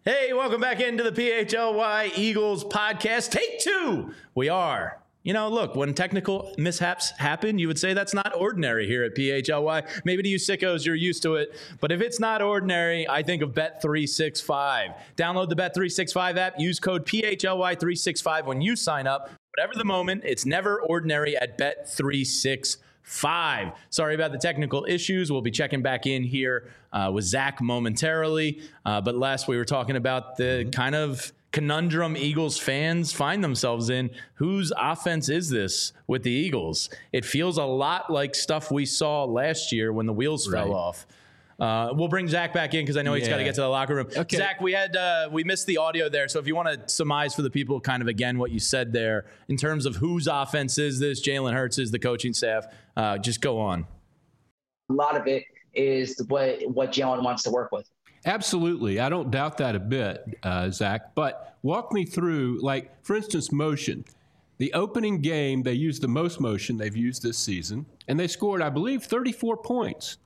Hey, welcome back into the PHLY Eagles podcast. Take two. We are. Look, when technical mishaps happen, you would say that's not ordinary here at PHLY. Maybe to you sickos, you're used to it. But if it's not ordinary, I think of Bet365. Download the Bet365 app. Use code PHLY365 when you sign up. Whatever the moment, it's never ordinary at Bet365. Sorry about the technical issues. We'll be checking back in here with Zach momentarily. But last we were talking about the kind of conundrum Eagles fans find themselves in. Whose offense is this with the Eagles? It feels a lot like stuff we saw last year when the wheels fell off. We'll bring Zach back in because I know he's got to get to the locker room. Okay. Zach, we missed the audio there. So if you want to surmise for the people kind of again what you said there in terms of whose offense is this, Jalen Hurts is the coaching staff, just go on. A lot of it is what Jalen wants to work with. Absolutely. I don't doubt that a bit, Zach. But walk me through, like, for instance, motion. The opening game, they used the most motion they've used this season, and they scored, I believe, 34 points.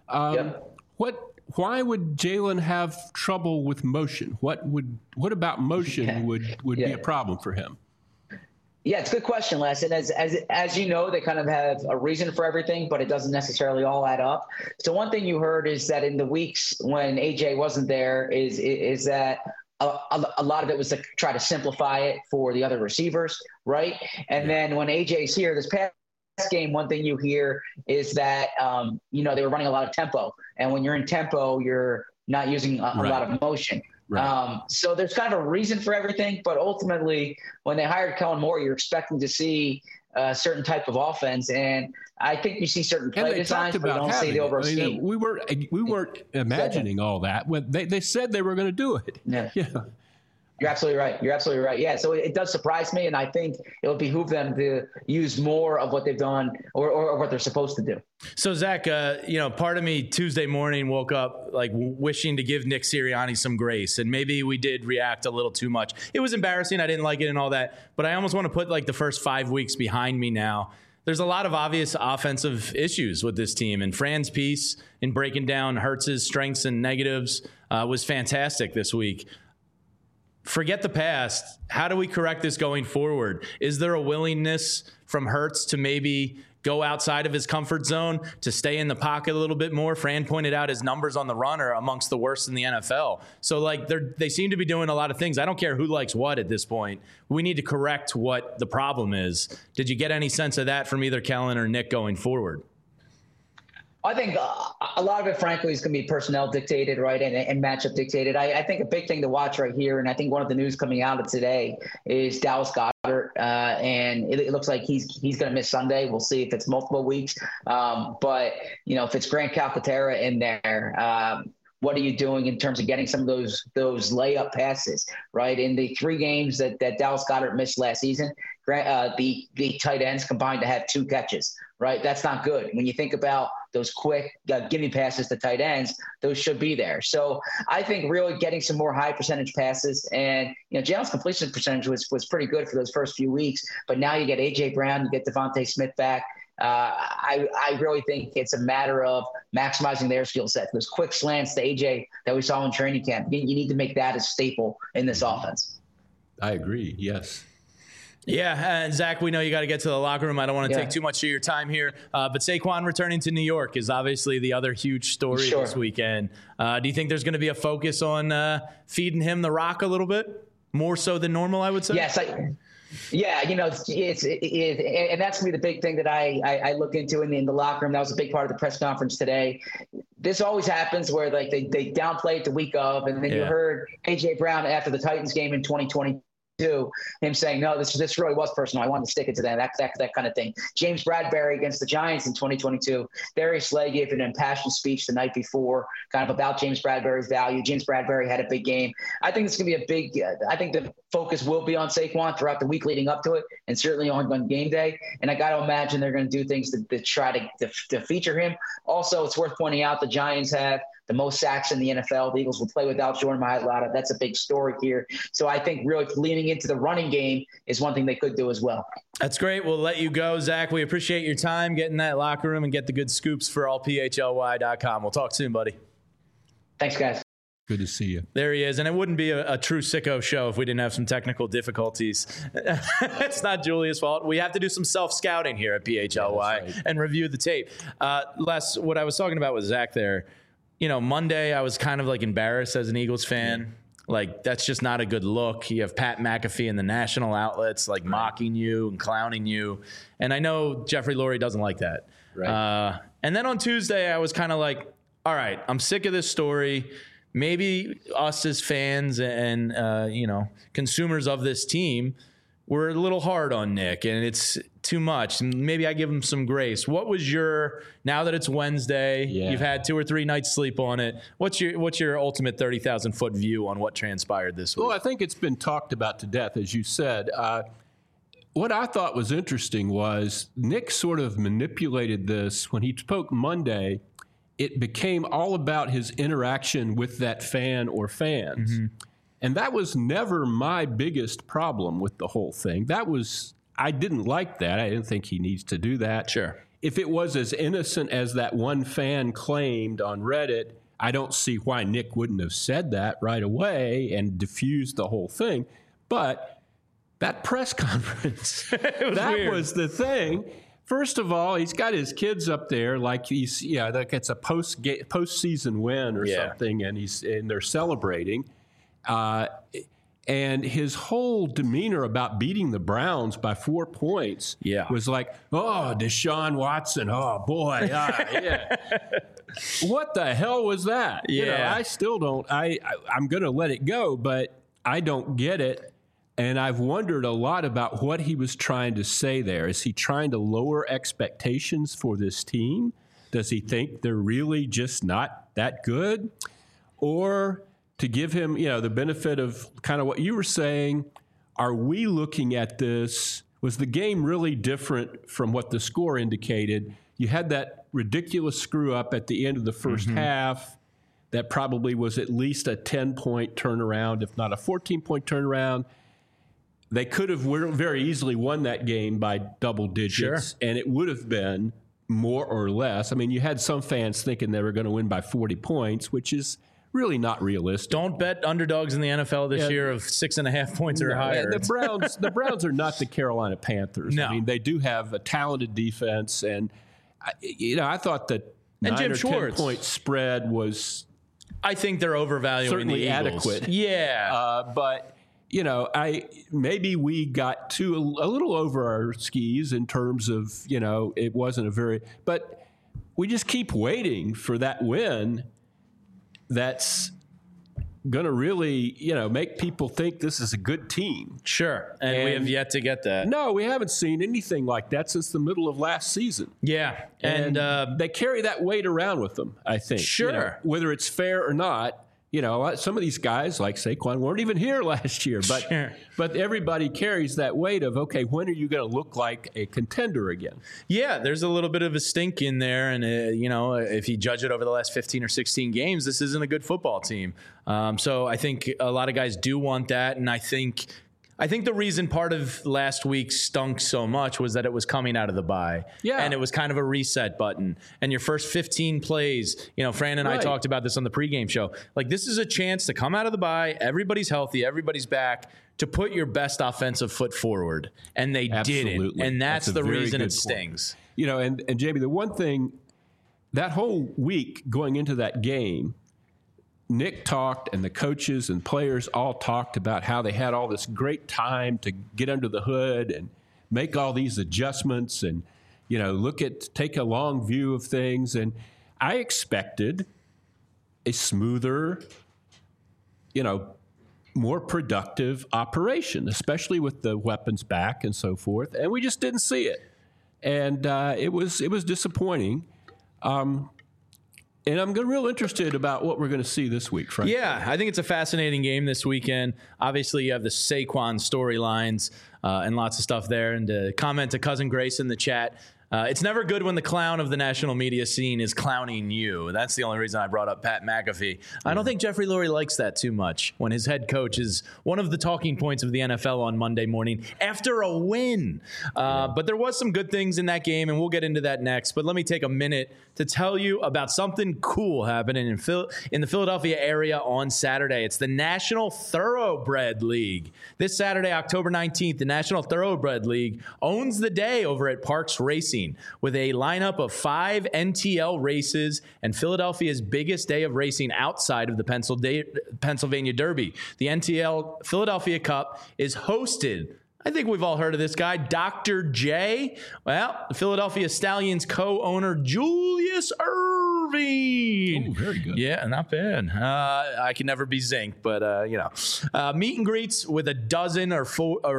Why would Jalen have trouble with motion? What about motion would be a problem for him? Yeah, it's a good question, Les. And as you know, they kind of have a reason for everything, but it doesn't necessarily all add up. So one thing you heard is that in the weeks when AJ wasn't there is that a lot of it was to try to simplify it for the other receivers, right? And then when AJ's here, this past game, one thing you hear is that, they were running a lot of tempo. And when you're in tempo, you're not using a lot of motion. Right. So there's kind of a reason for everything, but ultimately when they hired Kellen Moore, you're expecting to see a certain type of offense. And I think you see certain play designs, but you don't see the overall scheme. We weren't imagining all that when they said they were going to do it. Yeah. You're absolutely right. Yeah. So it does surprise me. And I think it will behoove them to use more of what they've done or what they're supposed to do. So Zach, part of me Tuesday morning woke up like wishing to give Nick Sirianni some grace. And maybe we did react a little too much. It was embarrassing. I didn't like it and all that, but I almost want to put like the first 5 weeks behind me now. There's a lot of obvious offensive issues with this team, and Fran's piece in breaking down Hurts's strengths and negatives was fantastic this week. Forget the past. How do we correct this going forward? Is there a willingness from Hurts to maybe go outside of his comfort zone, to stay in the pocket a little bit more? Fran pointed out his numbers on the run are amongst the worst in the NFL. So they seem to be doing a lot of things. I don't care who likes what at this point. We need to correct what the problem is. Did you get any sense of that from either Kellen or Nick going forward? I think a lot of it, frankly, is going to be personnel dictated, right, and matchup dictated. I think a big thing to watch right here, and I think one of the news coming out of today is Dallas Goedert, and it looks like he's going to miss Sunday. We'll see if it's multiple weeks. But, if it's Grant Calcaterra in there, what are you doing in terms of getting some of those layup passes, right? In the 3 games that Dallas Goedert missed last season, the tight ends combined to have 2 catches, right? That's not good. When you think about those quick gimme passes to tight ends, those should be there. So I think really getting some more high percentage passes, and Jalen's completion percentage was pretty good for those first few weeks, but now you get A.J. Brown, you get Devontae Smith back. I really think it's a matter of maximizing their skill set. Those quick slants to AJ that we saw in training camp, you need to make that a staple in this offense. I agree. Yes. Yeah, and Zach, we know you got to get to the locker room. I don't want to take too much of your time here, but Saquon returning to New York is obviously the other huge story this weekend. Do you think there's going to be a focus on feeding him the rock a little bit, more so than normal, I would say? Yes, yeah, and that's going to be the big thing that I look into in the locker room. That was a big part of the press conference today. This always happens where they downplay it the week of, and then you heard A.J. Brown after the Titans game in 2020. Him saying, no, this really was personal. I wanted to stick it to them, that kind of thing. James Bradbury against the Giants in 2022. Darius Slay gave an impassioned speech the night before, kind of about James Bradbury's value. James Bradbury had a big game. I think it's going to be a big I think the focus will be on Saquon throughout the week leading up to it, and certainly on game day. And I got to imagine they're going to do things to try to feature him. Also, it's worth pointing out the Giants have the most sacks in the NFL. The Eagles will play without Jordan Mailata. That's a big story here. So I think really leaning into the running game is one thing they could do as well. That's great. We'll let you go, Zach. We appreciate your time. Get in that locker room and get the good scoops for allphly.com. We'll talk soon, buddy. Thanks, guys. Good to see you. There he is. And it wouldn't be a true sicko show if we didn't have some technical difficulties. It's not Julia's fault. We have to do some self-scouting here at PHLY and review the tape. Les, what I was talking about with Zach there, Monday I was kind of like embarrassed as an Eagles fan. Yeah. Like, that's just not a good look. You have Pat McAfee in the national outlets, like, mocking you and clowning you. And I know Jeffrey Lurie doesn't like that. Right. And then on Tuesday, I was kind of like, all right, I'm sick of this story. Maybe us as fans and, consumers of this team, we're a little hard on Nick, and it's too much. Maybe I give him some grace. What was now that it's Wednesday, you've had 2 or 3 nights sleep on it, what's your ultimate 30,000-foot view on what transpired this week? Well, I think it's been talked about to death, as you said. What I thought was interesting was Nick sort of manipulated this when he spoke Monday. It became all about his interaction with that fan or fans. Mm-hmm. And that was never my biggest problem with the whole thing. I didn't like that. I didn't think he needs to do that. Sure. If it was as innocent as that one fan claimed on Reddit, I don't see why Nick wouldn't have said that right away and diffused the whole thing. But that press conference, was the thing. First of all, he's got his kids up there like like it's a postseason win or something, and they're celebrating. And his whole demeanor about beating the Browns by 4 points was like, oh, Deshaun Watson, oh, boy, what the hell was that? Yeah. I still don't. I'm going to let it go, but I don't get it. And I've wondered a lot about what he was trying to say there. Is he trying to lower expectations for this team? Does he think they're really just not that good? Or to give him, the benefit of kind of what you were saying, are we looking at this? Was the game really different from what the score indicated? You had that ridiculous screw up at the end of the first half that probably was at least a 10-point turnaround, if not a 14-point turnaround. They could have very easily won that game by double digits, and it would have been more or less. I mean, you had some fans thinking they were going to win by 40 points, which is really not realistic. Don't bet underdogs in the NFL this year of 6.5 points or higher. The Browns are not the Carolina Panthers. No. I mean, they do have a talented defense, and I thought that 9 or 10-point spread was, I think they're overvaluing certainly the Eagles. Adequate. Yeah, but. Maybe we got a little over our skis in terms of, it wasn't but we just keep waiting for that win that's going to really, make people think this is a good team. Sure. And we have yet to get that. No, we haven't seen anything like that since the middle of last season. Yeah. And they carry that weight around with them, I think. Sure. Whether it's fair or not. Some of these guys like Saquon weren't even here last year, but everybody carries that weight of, okay, when are you going to look like a contender again? Yeah, there's a little bit of a stink in there. And, if you judge it over the last 15 or 16 games, this isn't a good football team. So I think a lot of guys do want that. And I think the reason part of last week stunk so much was that it was coming out of the bye. Yeah. And it was kind of a reset button. And your first 15 plays, Fran and I talked about this on the pregame show. Like, this is a chance to come out of the bye. Everybody's healthy. Everybody's back, to put your best offensive foot forward. And they didn't. And that's the reason it stings. And Jamie, the one thing, that whole week going into that game, Nick talked, and the coaches and players all talked about how they had all this great time to get under the hood and make all these adjustments and, take a long view of things. And I expected a smoother, more productive operation, especially with the weapons back and so forth. And we just didn't see it. And it was disappointing. And I'm real interested about what we're going to see this week, Frank. Yeah, I think it's a fascinating game this weekend. Obviously, you have the Saquon storylines and lots of stuff there. And to comment to Cousin Grace in the chat, It's never good when the clown of the national media scene is clowning you. That's the only reason I brought up Pat McAfee. I don't think Jeffrey Lurie likes that too much when his head coach is one of the talking points of the NFL on Monday morning after a win. But there was some good things in that game, and we'll get into that next. But let me take a minute to tell you about something cool happening in the Philadelphia area on Saturday. It's the National Thoroughbred League. This Saturday, October 19th, the National Thoroughbred League owns the day over at Parks Racing with a lineup of 5 NTL races and Philadelphia's biggest day of racing outside of the Pennsylvania Derby. The NTL Philadelphia Cup is hosted, I think we've all heard of this guy, Dr. J. Well, the Philadelphia Stallions co-owner Julius Irving. Oh, very good. Yeah, not bad. I can never be zinc, but meet and greets with a dozen or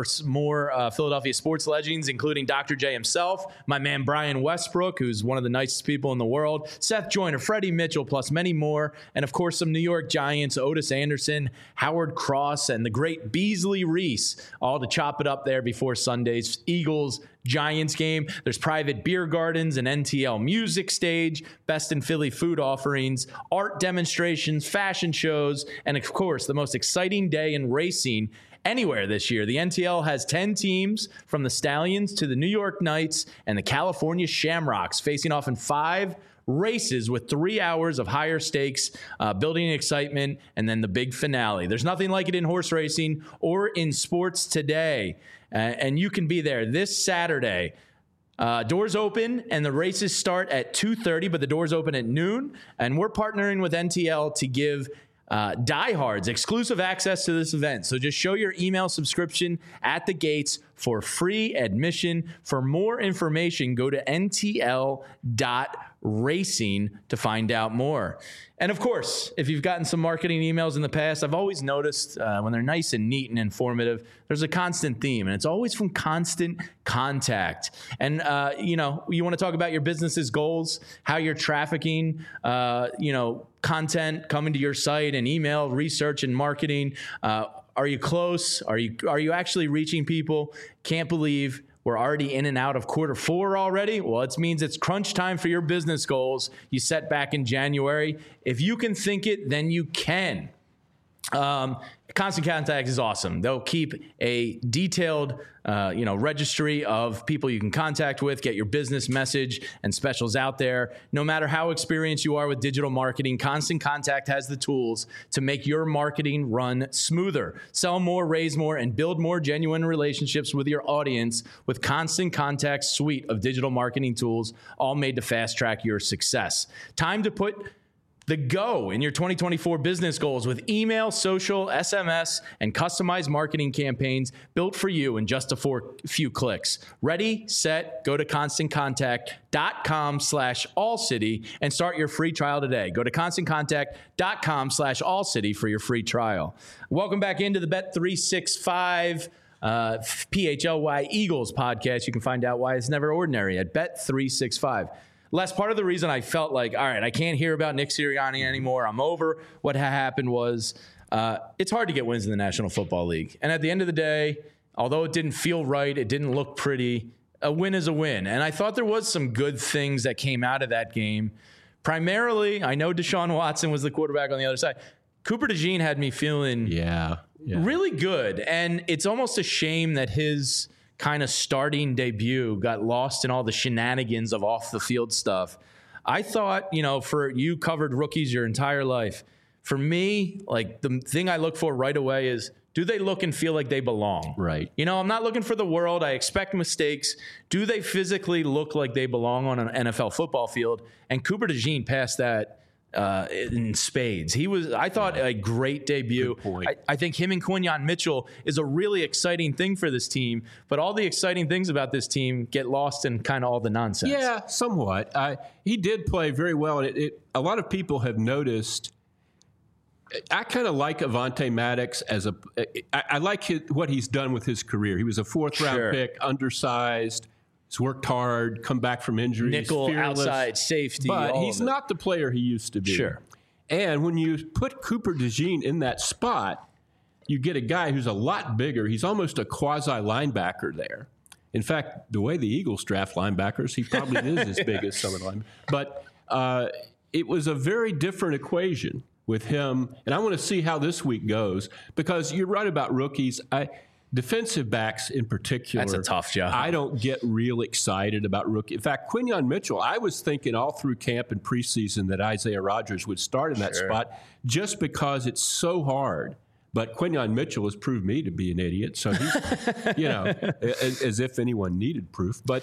more Philadelphia sports legends, including Dr. J himself, my man Brian Westbrook, who's one of the nicest people in the world, Seth Joyner, Freddie Mitchell, plus many more, and of course some New York Giants, Otis Anderson, Howard Cross, and the great Beasley Reese, all to chop it up there before Sunday's Eagles-Giants game. There's private beer gardens, an NTL music stage, best in Philly food offerings, art demonstrations, fashion shows, and of course, the most exciting day in racing anywhere this year. The NTL has 10 teams from the Stallions to the New York Knights and the California Shamrocks facing off in 5 races with 3 hours of higher stakes, building excitement, and then the big finale. There's nothing like it in horse racing or in sports today, and you can be there this Saturday. Doors open and the races start at 2:30, but the doors open at noon, and we're partnering with NTL to give diehards exclusive access to this event. So just show your email subscription at the gates for free admission. For more information, go to ntl.racing to find out more. And of course, if you've gotten some marketing emails in the past, I've always noticed when they're nice and neat and informative, there's a constant theme, and it's always from Constant Contact. And, you want to talk about your business's goals, how you're trafficking, content coming to your site and email research and marketing. Are you close? Are you actually reaching people? Can't believe we're already in and out of Q4 already. Well, it means it's crunch time for your business goals you set back in January. If you can think it, then you can. Constant Contact is awesome. They'll keep a detailed, registry of people you can contact with, get your business message and specials out there. No matter how experienced you are with digital marketing, Constant Contact has the tools to make your marketing run smoother. Sell more, raise more, and build more genuine relationships with your audience with Constant Contact's suite of digital marketing tools, all made to fast track your success. Time to put the go in your 2024 business goals with email, social, SMS, and customized marketing campaigns built for you in just a few clicks. Ready, set, go to ConstantContact.com/allcity and start your free trial today. Go to ConstantContact.com/allcity for your free trial. Welcome back into the Bet365 PHLY Eagles podcast. You can find out why it's never ordinary at Bet365. Les, part of the reason I felt like, all right, I can't hear about Nick Sirianni anymore. I'm over. What happened was it's hard to get wins in the National Football League. And at the end of the day, although it didn't feel right, it didn't look pretty, a win is a win. And I thought there was some good things that came out of that game. Primarily, I know Deshaun Watson was the quarterback on the other side. Cooper DeJean had me feeling really good. And it's almost a shame that his kind of starting debut got lost in all the shenanigans of off the field stuff. I thought, for you covered rookies your entire life. For me, like the thing I look for right away is, do they look and feel like they belong? Right. I'm not looking for the world. I expect mistakes. Do they physically look like they belong on an NFL football field? And Cooper DeJean passed that in spades. I thought, a great debut. I think him and Quinyon Mitchell is a really exciting thing for this team, but all the exciting things about this team get lost in kind of all the nonsense. Yeah, somewhat. He did play very well, and a lot of people have noticed. I kind of like Avonte Maddox I like what he's done with his career. He was a 4th-round pick, undersized. He's worked hard, come back from injuries. Nickel, fearless, outside, safety. But he's not the player he used to be. Sure. And when you put Cooper DeJean in that spot, you get a guy who's a lot bigger. He's almost a quasi-linebacker there. In fact, the way the Eagles draft linebackers, he probably is as big as some of them. But it was a very different equation with him. And I want to see how this week goes, because you're right about rookies. Defensive backs in particular. That's a tough job. I don't get real excited about rookie. In fact, Quinyon Mitchell, I was thinking all through camp and preseason that Isaiah Rodgers would start in that spot just because it's so hard. But Quinyon Mitchell has proved me to be an idiot. So he's, as if anyone needed proof. But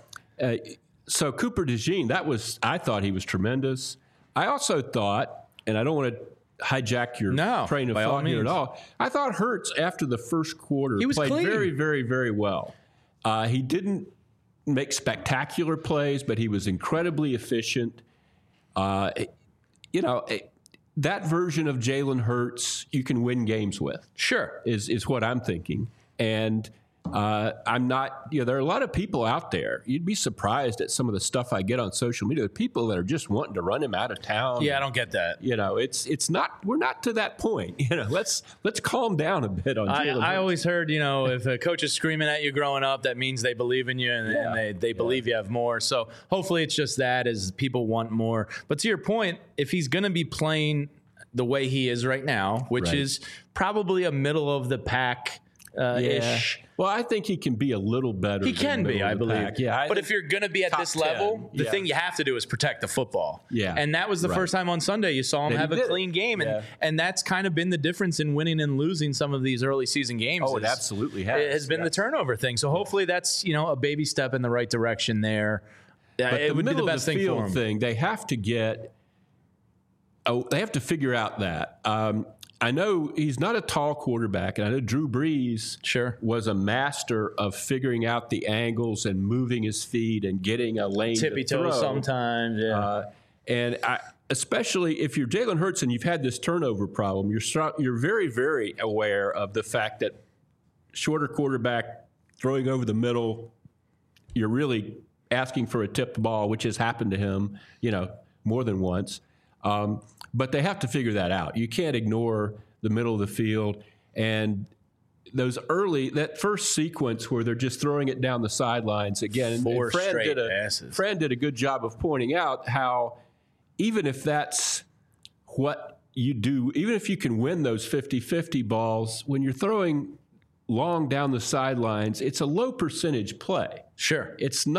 so Cooper DeJean, I thought he was tremendous. I also thought, and I don't want to hijack your train of thought here at all. I thought Hurts, after the first quarter, played clean. very, very, very well. He didn't make spectacular plays, but he was incredibly efficient. That version of Jalen Hurts you can win games with. Sure. Is what I'm thinking. And I'm not, there are a lot of people out there. You'd be surprised at some of the stuff I get on social media. People that are just wanting to run him out of town. Yeah, I don't get that. It's not, we're not to that point. Let's calm down a bit on Jalen Hurts. I always heard, if a coach is screaming at you growing up, that means they believe in you and they believe you have more. So hopefully it's just that, as people want more. But to your point, if he's going to be playing the way he is right now, which is probably a middle of the pack ish. Well, I think he can be a little better. He can be, I believe. Pack. Yeah, but if you're going to be at this level, the thing you have to do is protect the football. Yeah. And that was the first time on Sunday you saw him have a clean game. And that's kind of been the difference in winning and losing some of these early season games. Oh, it absolutely has. It has been the turnover thing. So hopefully that's, a baby step in the right direction there. But it would be the best thing for him. They have to get they have to figure out that. I know he's not a tall quarterback, and I know Drew Brees was a master of figuring out the angles and moving his feet and getting a lane tippy toe sometimes. And especially if you're Jalen Hurts and you've had this turnover problem, you're very, very aware of the fact that shorter quarterback throwing over the middle, you're really asking for a tipped ball, which has happened to him, more than once. But they have to figure that out. You can't ignore the middle of the field. And that first sequence where they're just throwing it down the sidelines again. Four straight passes. Fran did a good job of pointing out how even if that's what you do, even if you can win those 50-50 balls, when you're throwing long down the sidelines, it's a low percentage play. Sure. It's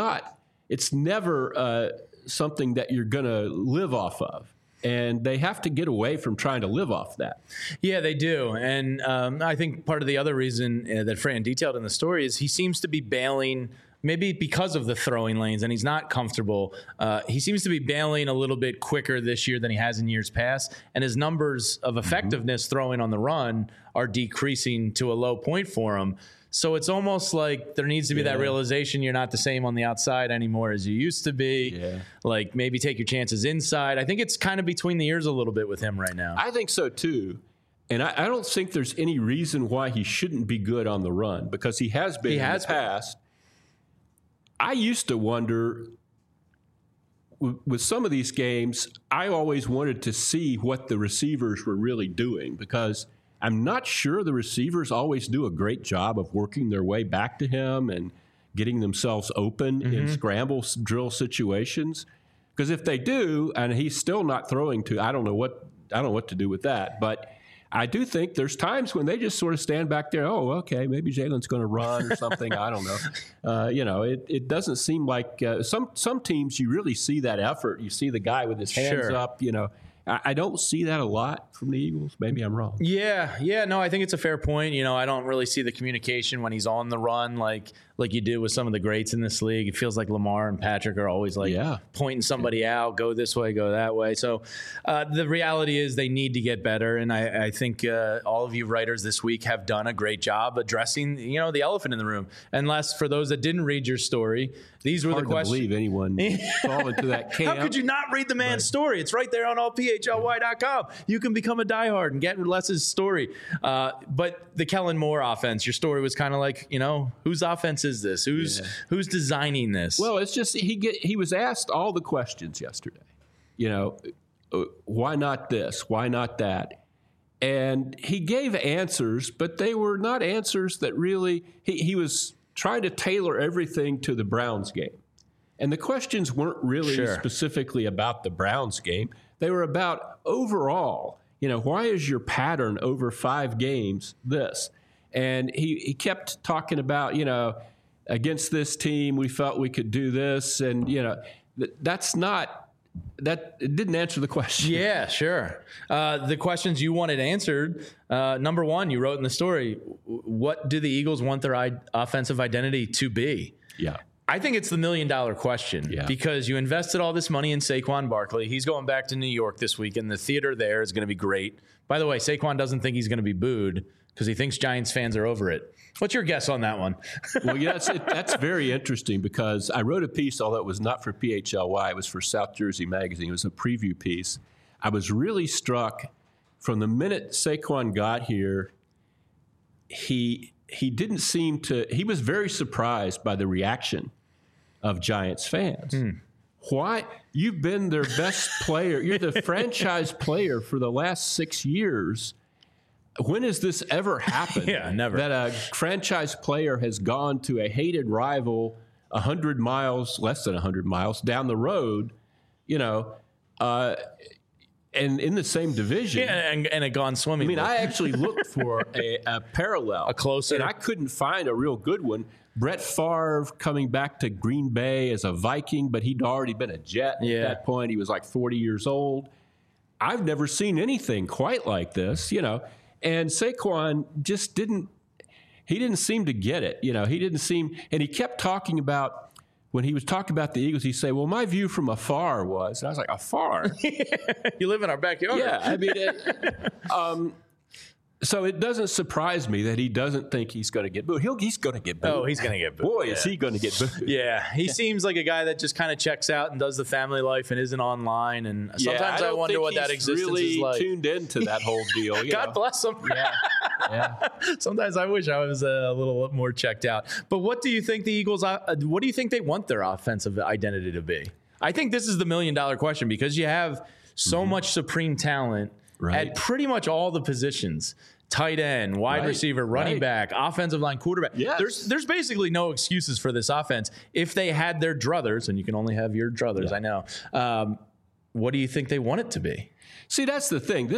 never something that you're going to live off of. And they have to get away from trying to live off that. Yeah, they do. And I think part of the other reason that Fran detailed in the story is he seems to be bailing, maybe because of the throwing lanes, and he's not comfortable. He seems to be bailing a little bit quicker this year than he has in years past. And his numbers of effectiveness throwing on the run are decreasing to a low point for him. So it's almost like there needs to be that realization you're not the same on the outside anymore as you used to be. Yeah. Like maybe take your chances inside. I think it's kind of between the ears a little bit with him right now. I think so too. And I don't think there's any reason why he shouldn't be good on the run, because he has been in the past. I used to wonder with some of these games, I always wanted to see what the receivers were really doing, because I'm not sure the receivers always do a great job of working their way back to him and getting themselves open in scramble drill situations. Because if they do, and he's still not throwing to, I don't know what to do with that. But I do think there's times when they just sort of stand back there. Oh, okay, maybe Jalen's going to run or something. I don't know. It doesn't seem like some teams you really see that effort. You see the guy with his hands up. I don't see that a lot from the Eagles. Maybe I'm wrong. Yeah. No, I think it's a fair point. I don't really see the communication when he's on the run like you do with some of the greats in this league. It feels like Lamar and Patrick are always pointing somebody out, go this way, go that way. So the reality is they need to get better. And I think all of you writers this week have done a great job addressing, the elephant in the room. Unless for those that didn't read your story, these were the questions. Hard to believe anyone fall into that camp. How could you not read the man's story? It's right there on allphly.com. You can become a diehard and get Les's story. But the Kellen Moore offense, your story was kind of like, whose offense is this? Who's designing this? Well, it's just he was asked all the questions yesterday. Why not this? Why not that? And he gave answers, but they were not answers that really he was trying to tailor everything to the Browns game. And the questions weren't really specifically about the Browns game. They were about overall, why is your pattern over 5 games this? And he kept talking about, against this team, we felt we could do this. And, it didn't answer the question. Yeah, sure. The questions you wanted answered, number one, you wrote in the story, what do the Eagles want their offensive identity to be? Yeah. I think it's the $1 million question because you invested all this money in Saquon Barkley. He's going back to New York this week, and the theater there is going to be great. By the way, Saquon doesn't think he's going to be booed because he thinks Giants fans are over it. What's your guess on that one? Well, that's very interesting because I wrote a piece, although it was not for PHLY. It was for South Jersey Magazine. It was a preview piece. I was really struck from the minute Saquon got here, he didn't seem to – he was very surprised by the reaction of Giants fans. Why? You've been their best player. You're the franchise player for the last 6 years. When has this ever happened? Yeah, never. That a franchise player has gone to a hated rival 100 miles, less than 100 miles down the road, and in the same division. Yeah, and it gone swimming. I mean, I actually looked for a parallel. A closer. And I couldn't find a real good one. Brett Favre coming back to Green Bay as a Viking, but he'd already been a Jet at that point. He was like 40 years old. I've never seen anything quite like this, And Saquon just didn't seem to get it. He didn't seem, and he kept talking about, when he was talking about the Eagles, he'd say, well, my view from afar was, and I was like, afar? You live in our backyard. Yeah, I mean, so it doesn't surprise me that he doesn't think he's going to get booed. He's going to get booed. Oh, he's going to get booed. Boy, is he going to get booed. Yeah, he seems like a guy that just kind of checks out and does the family life and isn't online. And sometimes I wonder what that existence really is like. Tuned into that whole deal. God bless him. Yeah. Sometimes I wish I was a little more checked out. But what do you think the Eagles? What do you think they want their offensive identity to be? I think this is the $1 million question because you have so much supreme talent at pretty much all the positions. Tight end, wide receiver, running back, offensive line, quarterback. Yes. There's basically no excuses for this offense. If they had their druthers, and you can only have your druthers, I know. What do you think they want it to be? See, that's the thing.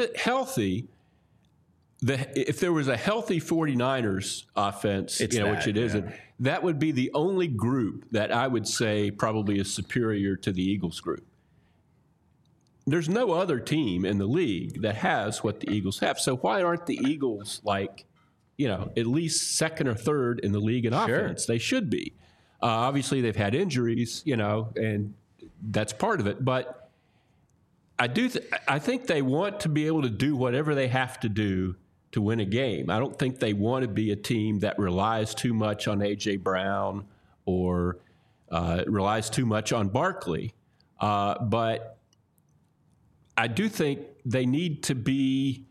If there was a healthy 49ers offense, which it isn't, that would be the only group that I would say probably is superior to the Eagles group. There's no other team in the league that has what the Eagles have. So why aren't the Eagles at least second or third in the league in offense? They should be. Obviously, they've had injuries, and that's part of it. But I think they want to be able to do whatever they have to do to win a game. I don't think they want to be a team that relies too much on A.J. Brown or relies too much on Barkley. But I do think they need to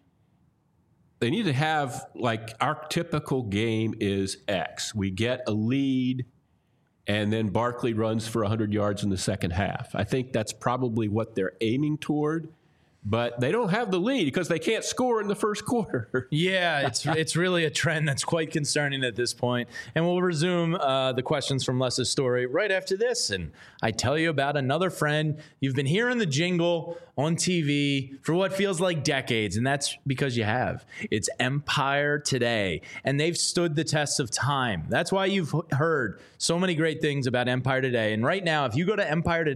have, like, our typical game is X. We get a lead, and then Barkley runs for 100 yards in the second half. I think that's probably what they're aiming toward. But they don't have the lead because they can't score in the first quarter. Yeah, it's really a trend that's quite concerning at this point. And we'll resume the questions from Les's story right after this. And I tell you about another friend. You've been hearing the jingle on TV for what feels like decades, and that's because you have. It's Empire Today, and they've stood the test of time. That's why you've heard so many great things about Empire Today. And right now, if you go to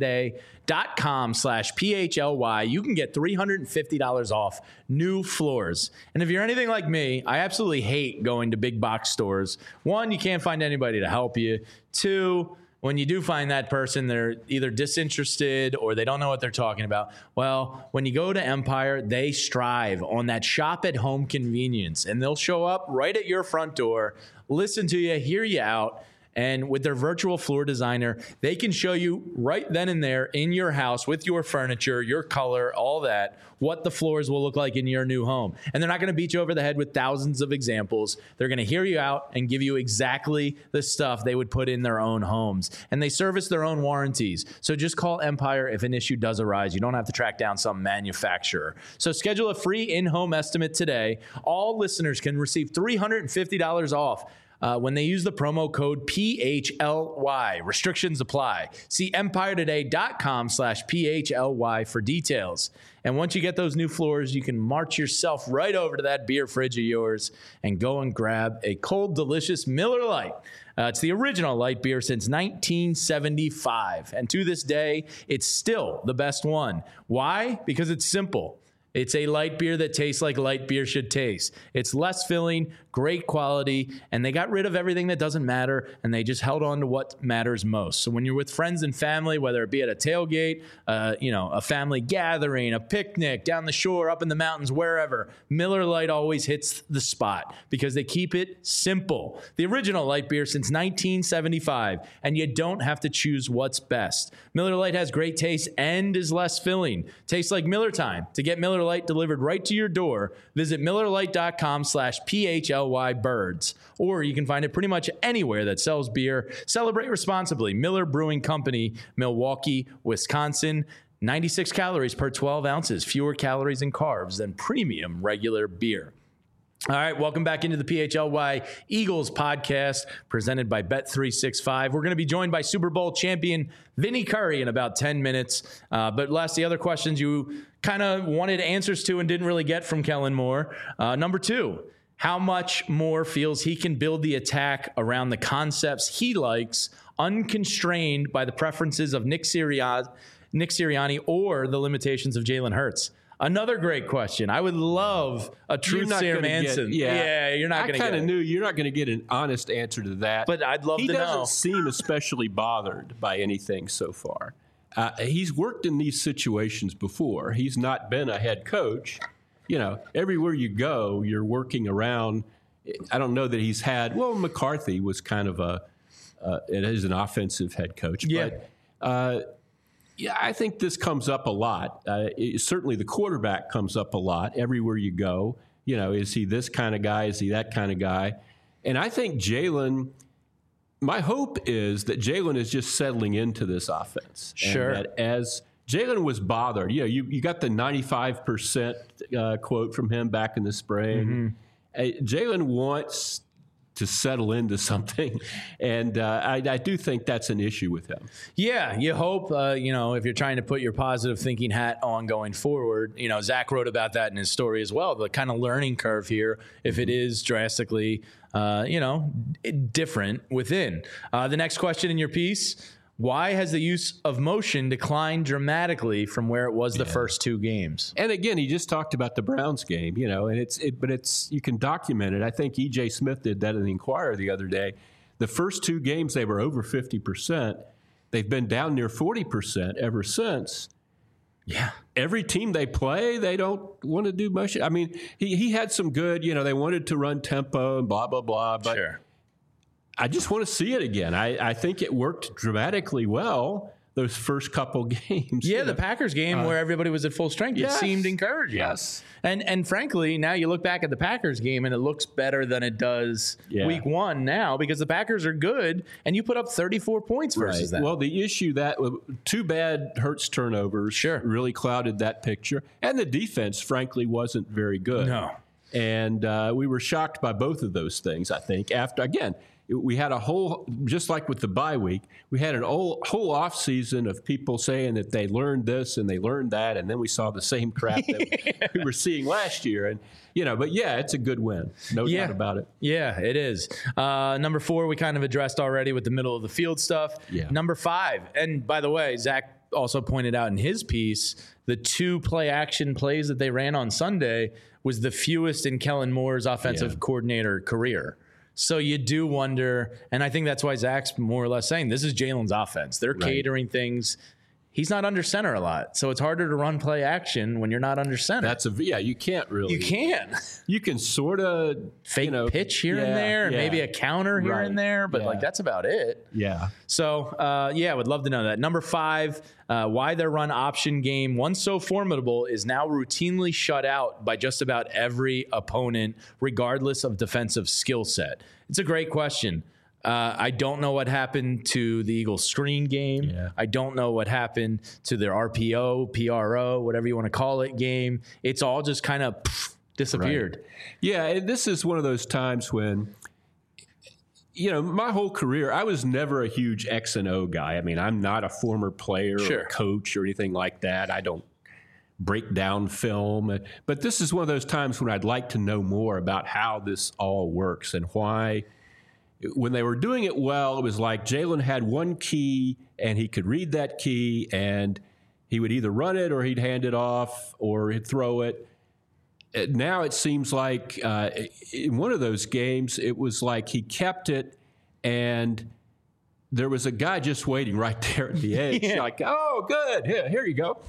empiretoday.com/PHLY, you can get $350 off new floors. And if you're anything like me, I absolutely hate going to big box stores. One, you can't find anybody to help you. Two, when you do find that person, they're either disinterested or they don't know what they're talking about. Well, when you go to Empire, they strive on that shop at home convenience, and they'll show up right at your front door, listen to you, hear you out. And with their virtual floor designer, they can show you right then and there in your house with your furniture, your color, all that, what the floors will look like in your new home. And they're not going to beat you over the head with thousands of examples. They're going to hear you out and give you exactly the stuff they would put in their own homes. And they service their own warranties. So just call Empire if an issue does arise. You don't have to track down some manufacturer. So schedule a free in-home estimate today. All listeners can receive $350 off when they use the promo code PHLY. Restrictions apply. See EmpireToday.com/PHLY for details. And once you get those new floors, you can march yourself right over to that beer fridge of yours and go and grab a cold, delicious Miller Lite. It's the original light beer since 1975. And to this day, it's still the best one. Why? Because it's simple. It's a light beer that tastes like light beer should taste. It's less filling, great quality, and they got rid of everything that doesn't matter, and they just held on to what matters most. So when you're with friends and family, whether it be at a tailgate, a family gathering, a picnic, down the shore, up in the mountains, wherever, Miller Lite always hits the spot because they keep it simple. The original light beer since 1975, and you don't have to choose what's best. Miller Lite has great taste and is less filling. Tastes like Miller time. To get Miller Lite delivered right to your door, visit MillerLite.com/PHLYBirds, or you can find it pretty much anywhere that sells beer. Celebrate responsibly. Miller Brewing Company, Milwaukee, Wisconsin. 96 calories per 12 ounces, fewer calories and carbs than premium regular beer. All right, welcome back into the PHLY Eagles podcast presented by Bet365. We're going to be joined by Super Bowl champion Vinny Curry in about 10 minutes. But Les, the other questions you kind of wanted answers to and didn't really get from Kellen Moore. Number 2, how much Moore feels he can build the attack around the concepts he likes, unconstrained by the preferences of Nick Sirianni or the limitations of Jalen Hurts. Another great question. I would love a true Sam Anson. You're not going to get it. I kind of knew you're not going to get an honest answer to that. But I'd love to know. He doesn't seem especially bothered by anything so far. He's worked in these situations before. He's not been a head coach. You know, everywhere you go, you're working around. I don't know that he's had. Well, McCarthy was kind of it is an offensive head coach. Yeah. But, yeah, I think this comes up a lot. Certainly the quarterback comes up a lot everywhere you go. You know, is he this kind of guy? Is he that kind of guy? And I think Jalen, my hope is that Jalen is just settling into this offense. Sure. And that as Jalen was bothered, you know, you got the 95% quote from him back in the spring. Mm-hmm. Jalen wants to settle into something. And I do think that's an issue with him. Yeah, you hope, if you're trying to put your positive thinking hat on going forward, Zach wrote about that in his story as well, the kind of learning curve here, if it is drastically, different within. The next question in your piece, why has the use of motion declined dramatically from where it was the first 2 games? And again, he just talked about the Browns game, and but you can document it. I think E.J. Smith did that in the Inquirer the other day. The first 2 games, they were over 50%. They've been down near 40% ever since. Yeah. Every team they play, they don't want to do motion. I mean, he had some good, they wanted to run tempo and blah, blah, blah. But sure. I just want to see it again. I think it worked dramatically well those first couple games. Yeah, the Packers game where everybody was at full strength, it seemed encouraging. Yes. And frankly, now you look back at the Packers game and it looks better than it does week 1 now because the Packers are good and you put up 34 points versus them. Well, the issue too bad Hurts turnovers really clouded that picture. And the defense, frankly, wasn't very good. No. And we were shocked by both of those things, I think. We had a whole, just like with the bye week, we had whole off season of people saying that they learned this and they learned that, and then we saw the same crap that we were seeing last year. And but it's a good win, no doubt about it. Yeah, it is. Number 4, we kind of addressed already with the middle of the field stuff. Yeah. Number 5, and by the way, Zach also pointed out in his piece, the 2 play action plays that they ran on Sunday was the fewest in Kellen Moore's offensive coordinator career. So you do wonder, and I think that's why Zach's more or less saying this is Jalen's offense. They're catering things. He's not under center a lot, so it's harder to run play action when you're not under center. You can't really. You can. You can sort of fake pitch here and there, and maybe a counter here and there, but that's about it. Yeah. So I would love to know that. Number 5, why their run option game, once so formidable, is now routinely shut out by just about every opponent, regardless of defensive skill set. It's a great question. I don't know what happened to the Eagles screen game. Yeah. I don't know what happened to their RPO, PRO, whatever you want to call it, game. It's all just kind of disappeared. Right. Yeah, and this is one of those times when my whole career, I was never a huge X and O guy. I mean, I'm not a former player or a coach or anything like that. I don't break down film. But this is one of those times when I'd like to know more about how this all works and why. When they were doing it well, it was like Jalen had one key and he could read that key and he would either run it or he'd hand it off or he'd throw it. Now it seems like in one of those games, it was like he kept it and there was a guy just waiting right there at the edge. Like, oh, good. Here you go.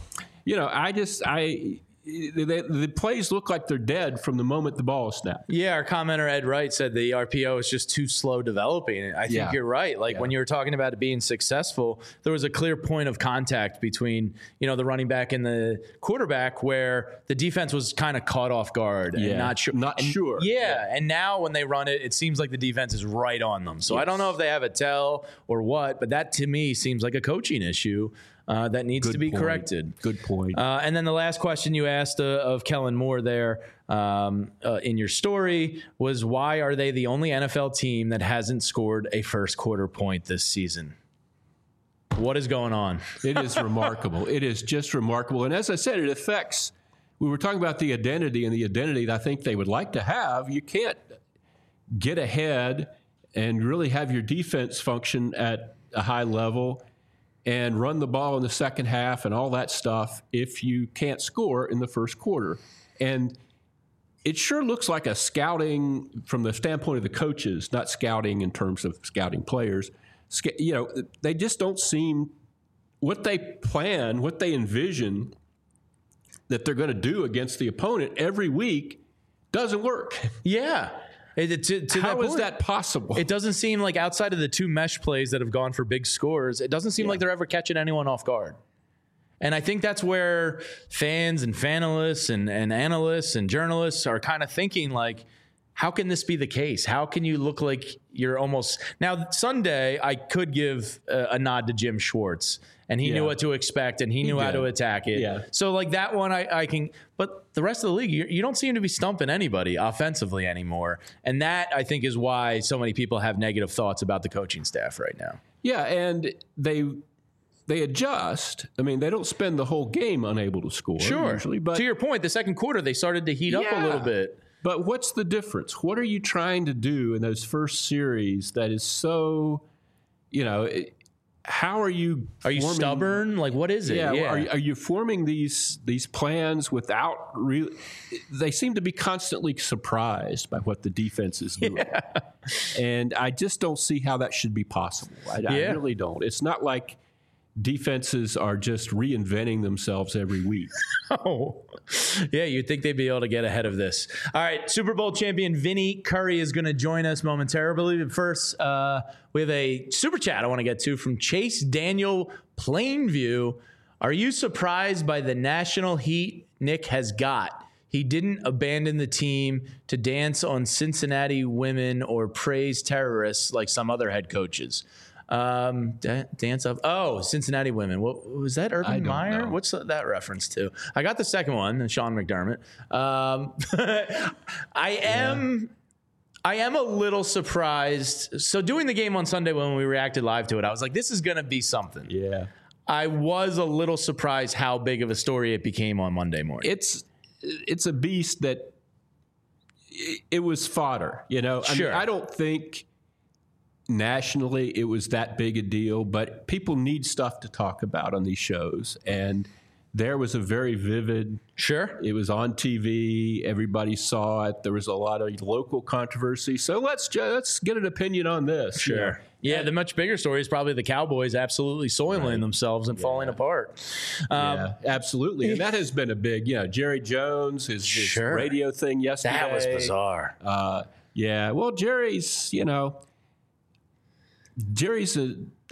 The plays look like they're dead from the moment the ball is snapped. Yeah, our commenter Ed Wright said the RPO is just too slow developing. I think you're right. Like when you were talking about it being successful, there was a clear point of contact between, the running back and the quarterback where the defense was kind of caught off guard and not sure. Yeah, and now when they run it, it seems like the defense is right on them. So I don't know if they have a tell or what, but that to me seems like a coaching issue. That needs to be corrected. Good point. And then the last question you asked of Kellen Moore there in your story was, why are they the only NFL team that hasn't scored a first quarter point this season? What is going on? It is remarkable. It is just remarkable. And as I said, it affects, we were talking about the identity and the identity that I think they would like to have. You can't get ahead and really have your defense function at a high level and run the ball in the second half and all that stuff if you can't score in the first quarter. And it sure looks like a scouting from the standpoint of the coaches, not scouting in terms of scouting players. They just don't seem what they plan, what they envision that they're going to do against the opponent every week doesn't work. Yeah. How is that possible? It doesn't seem like, outside of the two mesh plays that have gone for big scores, it doesn't seem like they're ever catching anyone off guard. And I think that's where fans and fanalists and analysts and journalists are kind of thinking, like, how can this be the case? How can you look like you're almost... Now, Sunday, I could give a nod to Jim Schwartz, and he knew what to expect, and he knew how to attack it. Yeah. So, like, that one I can... But the rest of the league, you don't seem to be stumping anybody offensively anymore. And that, I think, is why so many people have negative thoughts about the coaching staff right now. Yeah, and they adjust. I mean, they don't spend the whole game unable to score. Sure. Usually, but to your point, the second quarter, they started to heat up a little bit. But what's the difference? What are you trying to do in those first series that is so, how are you... Are you stubborn? Like, what is it? Yeah. Are you forming these plans without really... They seem to be constantly surprised by what the defense is doing. Yeah. And I just don't see how that should be possible. I really don't. It's not like defenses are just reinventing themselves every week. Oh, yeah, you'd think they'd be able to get ahead of this. All right, Super Bowl champion Vinny Curry is going to join us momentarily. But first, we have a super chat I want to get to from Chase Daniel Plainview. Are you surprised by the national heat Nick has got? He didn't abandon the team to dance on Cincinnati women or praise terrorists like some other head coaches. Dance of Cincinnati women. What was that? Urban Meyer? What's that reference to? I got the second one, Sean McDermott. I am a little surprised. So doing the game on Sunday when we reacted live to it, I was like, this is going to be something. Yeah. I was a little surprised how big of a story it became on Monday morning. It's a beast that it was fodder, Sure. I mean, I don't think nationally it was that big a deal, but people need stuff to talk about on these shows. And there was a very vivid... Sure. It was on TV. Everybody saw it. There was a lot of local controversy. So let's get an opinion on this. Sure. Yeah, the much bigger story is probably the Cowboys absolutely soiling themselves and falling apart. Yeah, absolutely. And that has been a big, Jerry Jones, his radio thing yesterday. That was bizarre. Well, Jerry's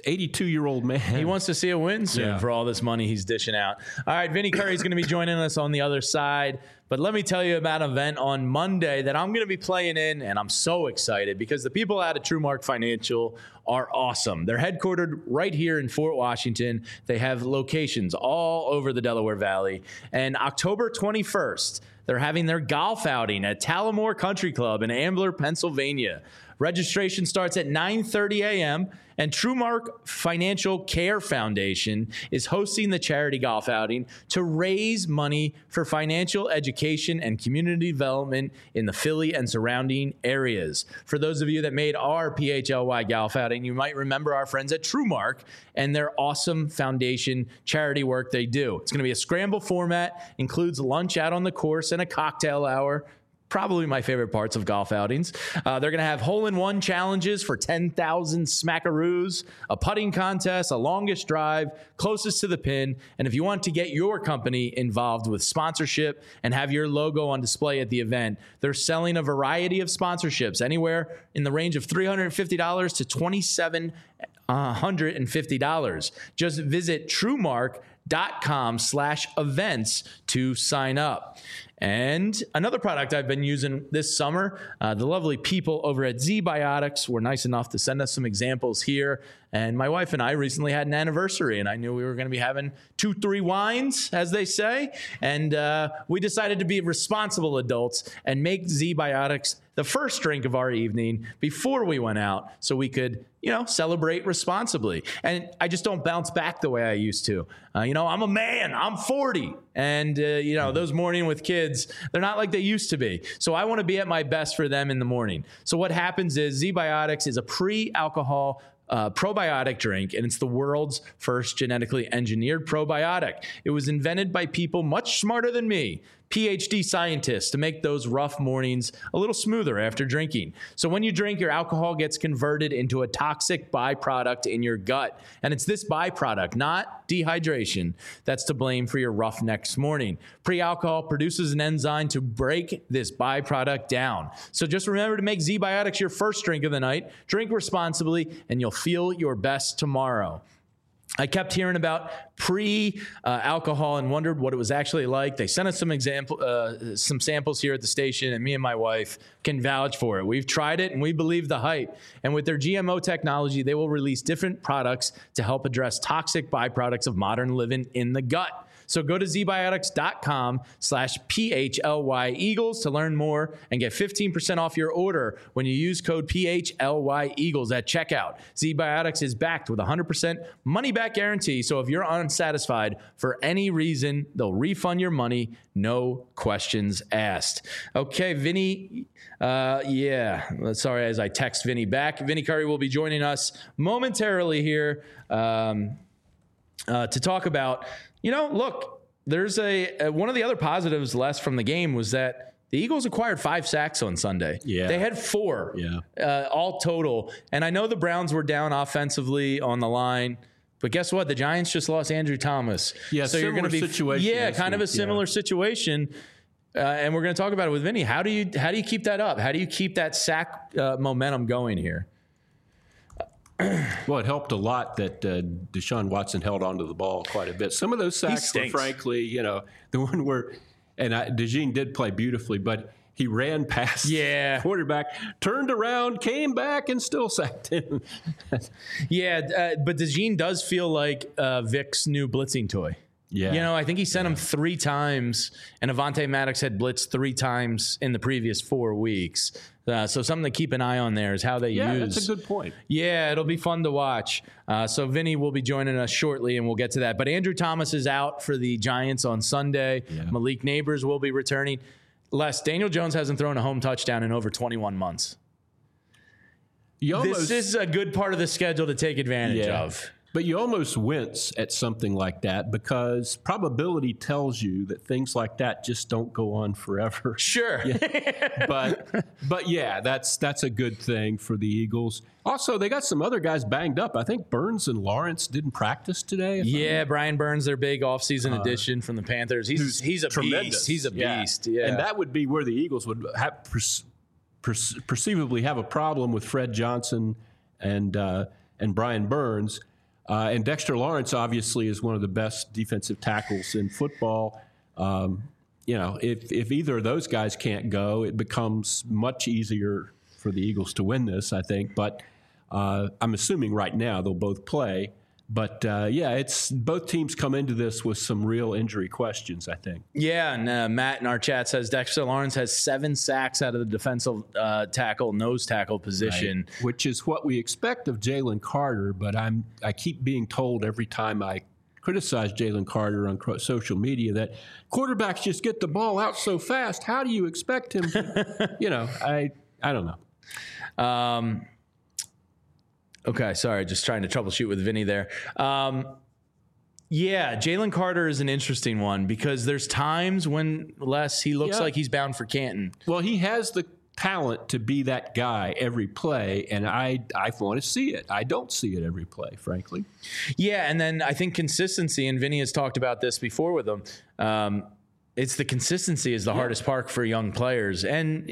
82-year-old man. He wants to see a win soon Yeah. for all this money he's dishing out. All right, Vinny Curry is going to be joining us on the other side. But let me tell you about an event on Monday that I'm going to be playing in, and I'm so excited because the people out at TrueMark Financial are awesome. They're headquartered right here in Fort Washington. They have locations all over the Delaware Valley. And October 21st, they're having their golf outing at Talamore Country Club in Ambler, Pennsylvania. Registration starts at 9:30 a.m., and TrueMark Financial Care Foundation is hosting the charity golf outing to raise money for financial education and community development in the Philly and surrounding areas. For those of you that made our PHLY golf outing, you might remember our friends at TrueMark and their awesome foundation charity work they do. It's going to be a scramble format, includes lunch out on the course and a cocktail hour. Probably my favorite parts of golf outings. They're going to have hole-in-one challenges for 10,000 smackaroos, a putting contest, a longest drive, closest to the pin. And if you want to get your company involved with sponsorship and have your logo on display at the event, they're selling a variety of sponsorships, anywhere in the range of $350 to $2,750. Just visit TrueMark.com/events to sign up. And another product I've been using this summer, the lovely people over at ZBiotics were nice enough to send us some examples here. And my wife and I recently had an anniversary, and I knew we were going to be having 2-3 wines, as they say. And we decided to be responsible adults and make ZBiotics the first drink of our evening before we went out so we could, celebrate responsibly. And I just don't bounce back the way I used to. I'm a man. I'm 40. And, those morning with kids, they're not like they used to be. So I want to be at my best for them in the morning. So what happens is ZBiotics is a pre-alcohol probiotic drink, and it's the world's first genetically engineered probiotic. It was invented by people much smarter than me, PhD scientists, to make those rough mornings a little smoother after drinking. So when you drink, your alcohol gets converted into a toxic byproduct in your gut. And it's this byproduct, not dehydration, that's to blame for your rough next morning. Pre-alcohol produces an enzyme to break this byproduct down. So just remember to make ZBiotics your first drink of the night. Drink responsibly, and you'll feel your best tomorrow. I kept hearing about pre-alcohol and wondered what it was actually like. They sent us some samples here at the station, and me and my wife can vouch for it. We've tried it, and we believe the hype. And with their GMO technology, they will release different products to help address toxic byproducts of modern living in the gut. So go to zbiotics.com/PHLY Eagles to learn more and get 15% off your order when you use code PHLY Eagles at checkout. ZBiotics is backed with a 100% money-back guarantee. So if you're unsatisfied for any reason, they'll refund your money, no questions asked. Okay, Vinny. Sorry, as I text Vinny back. Vinny Curry will be joining us momentarily here to talk about. Look, there's one of the other positives less from the game was that the Eagles acquired 5 sacks on Sunday. Yeah. They had 4 all total. And I know the Browns were down offensively on the line, but guess what? The Giants just lost Andrew Thomas. Yeah, so you're going to be situation. Yeah, kind of a similar situation. And we're going to talk about it with Vinny. How do you keep that up? How do you keep that sack momentum going here? Well, it helped a lot that Deshaun Watson held onto the ball quite a bit. Some of those sacks were, frankly, the one where, and DeJean did play beautifully, but he ran past the quarterback, turned around, came back, and still sacked him. But DeJean does feel like Vic's new blitzing toy. Yeah. I think he sent him 3 times, and Avonte Maddox had blitzed 3 times in the previous 4 weeks. So something to keep an eye on there is how they use. Yeah, that's a good point. Yeah, it'll be fun to watch. So Vinny will be joining us shortly, and we'll get to that. But Andrew Thomas is out for the Giants on Sunday. Yeah. Malik Neighbors will be returning. Daniel Jones hasn't thrown a home touchdown in over 21 months. This is a good part of the schedule to take advantage of. But you almost wince at something like that because probability tells you that things like that just don't go on forever. Sure. But yeah, that's a good thing for the Eagles. Also, they got some other guys banged up. I think Burns and Lawrence didn't practice today. Brian Burns, their big offseason addition from the Panthers. He's a tremendous. Beast. He's a beast. Yeah. And that would be where the Eagles would have perceivably have a problem with Fred Johnson and Brian Burns. And Dexter Lawrence obviously is one of the best defensive tackles in football. If either of those guys can't go, it becomes much easier for the Eagles to win this, I think. But I'm assuming right now they'll both play. But, it's both teams come into this with some real injury questions, I think. Yeah, and Matt in our chat says Dexter Lawrence has 7 sacks out of the defensive nose tackle position. Right. Which is what we expect of Jalen Carter, but I keep being told every time I criticize Jalen Carter on social media that quarterbacks just get the ball out so fast. How do you expect him to, I don't know. Okay, sorry, just trying to troubleshoot with Vinny there. Jalen Carter is an interesting one because there's times when he looks like he's bound for Canton. Well, he has the talent to be that guy every play, and I want to see it. I don't see it every play, frankly. Yeah, and then I think consistency, and Vinny has talked about this before with him, it's the consistency is the hardest part for young players. And,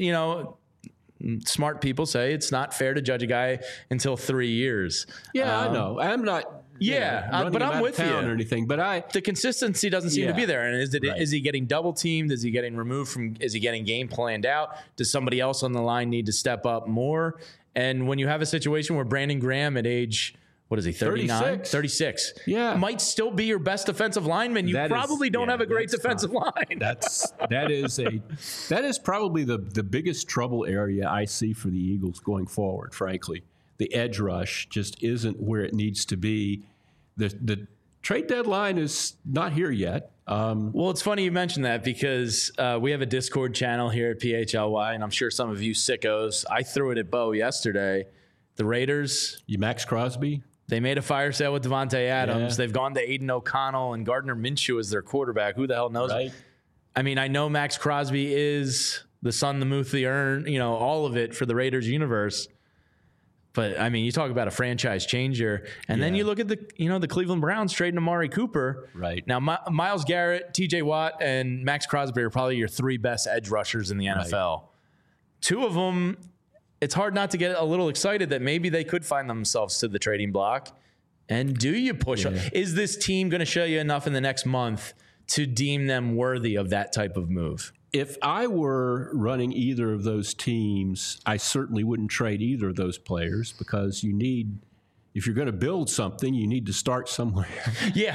smart people say it's not fair to judge a guy until 3 years. Yeah, I know. I'm not. But I'm with you or anything. But the consistency doesn't seem to be there. And is he getting double teamed? Is he getting removed from? Is he getting game planned out? Does somebody else on the line need to step up more? And when you have a situation where Brandon Graham at age, what is he, 39? 36. Yeah. Might still be your best defensive lineman. You probably don't have a great defensive line. That is probably the biggest trouble area I see for the Eagles going forward, frankly. The edge rush just isn't where it needs to be. The trade deadline is not here yet. Well, it's funny you mentioned that because we have a Discord channel here at PHLY, and I'm sure some of you sickos, I threw it at Bo yesterday. The Raiders. Max Crosby? They made a fire sale with Devontae Adams. Yeah. They've gone to Aiden O'Connell and Gardner Minshew as their quarterback. Who the hell knows? Right. I mean, I know Max Crosby is the sun, the moon, the urn, all of it for the Raiders universe. But, I mean, you talk about a franchise changer. And then you look at the Cleveland Browns trading Amari Cooper. Right. Now, Myles Garrett, T.J. Watt, and Max Crosby are probably your 3 best edge rushers in the NFL. Right. 2 of them, it's hard not to get a little excited that maybe they could find themselves to the trading block. And do you push them? Is this team going to show you enough in the next month to deem them worthy of that type of move? If I were running either of those teams, I certainly wouldn't trade either of those players because if you're going to build something, you need to start somewhere. Yeah.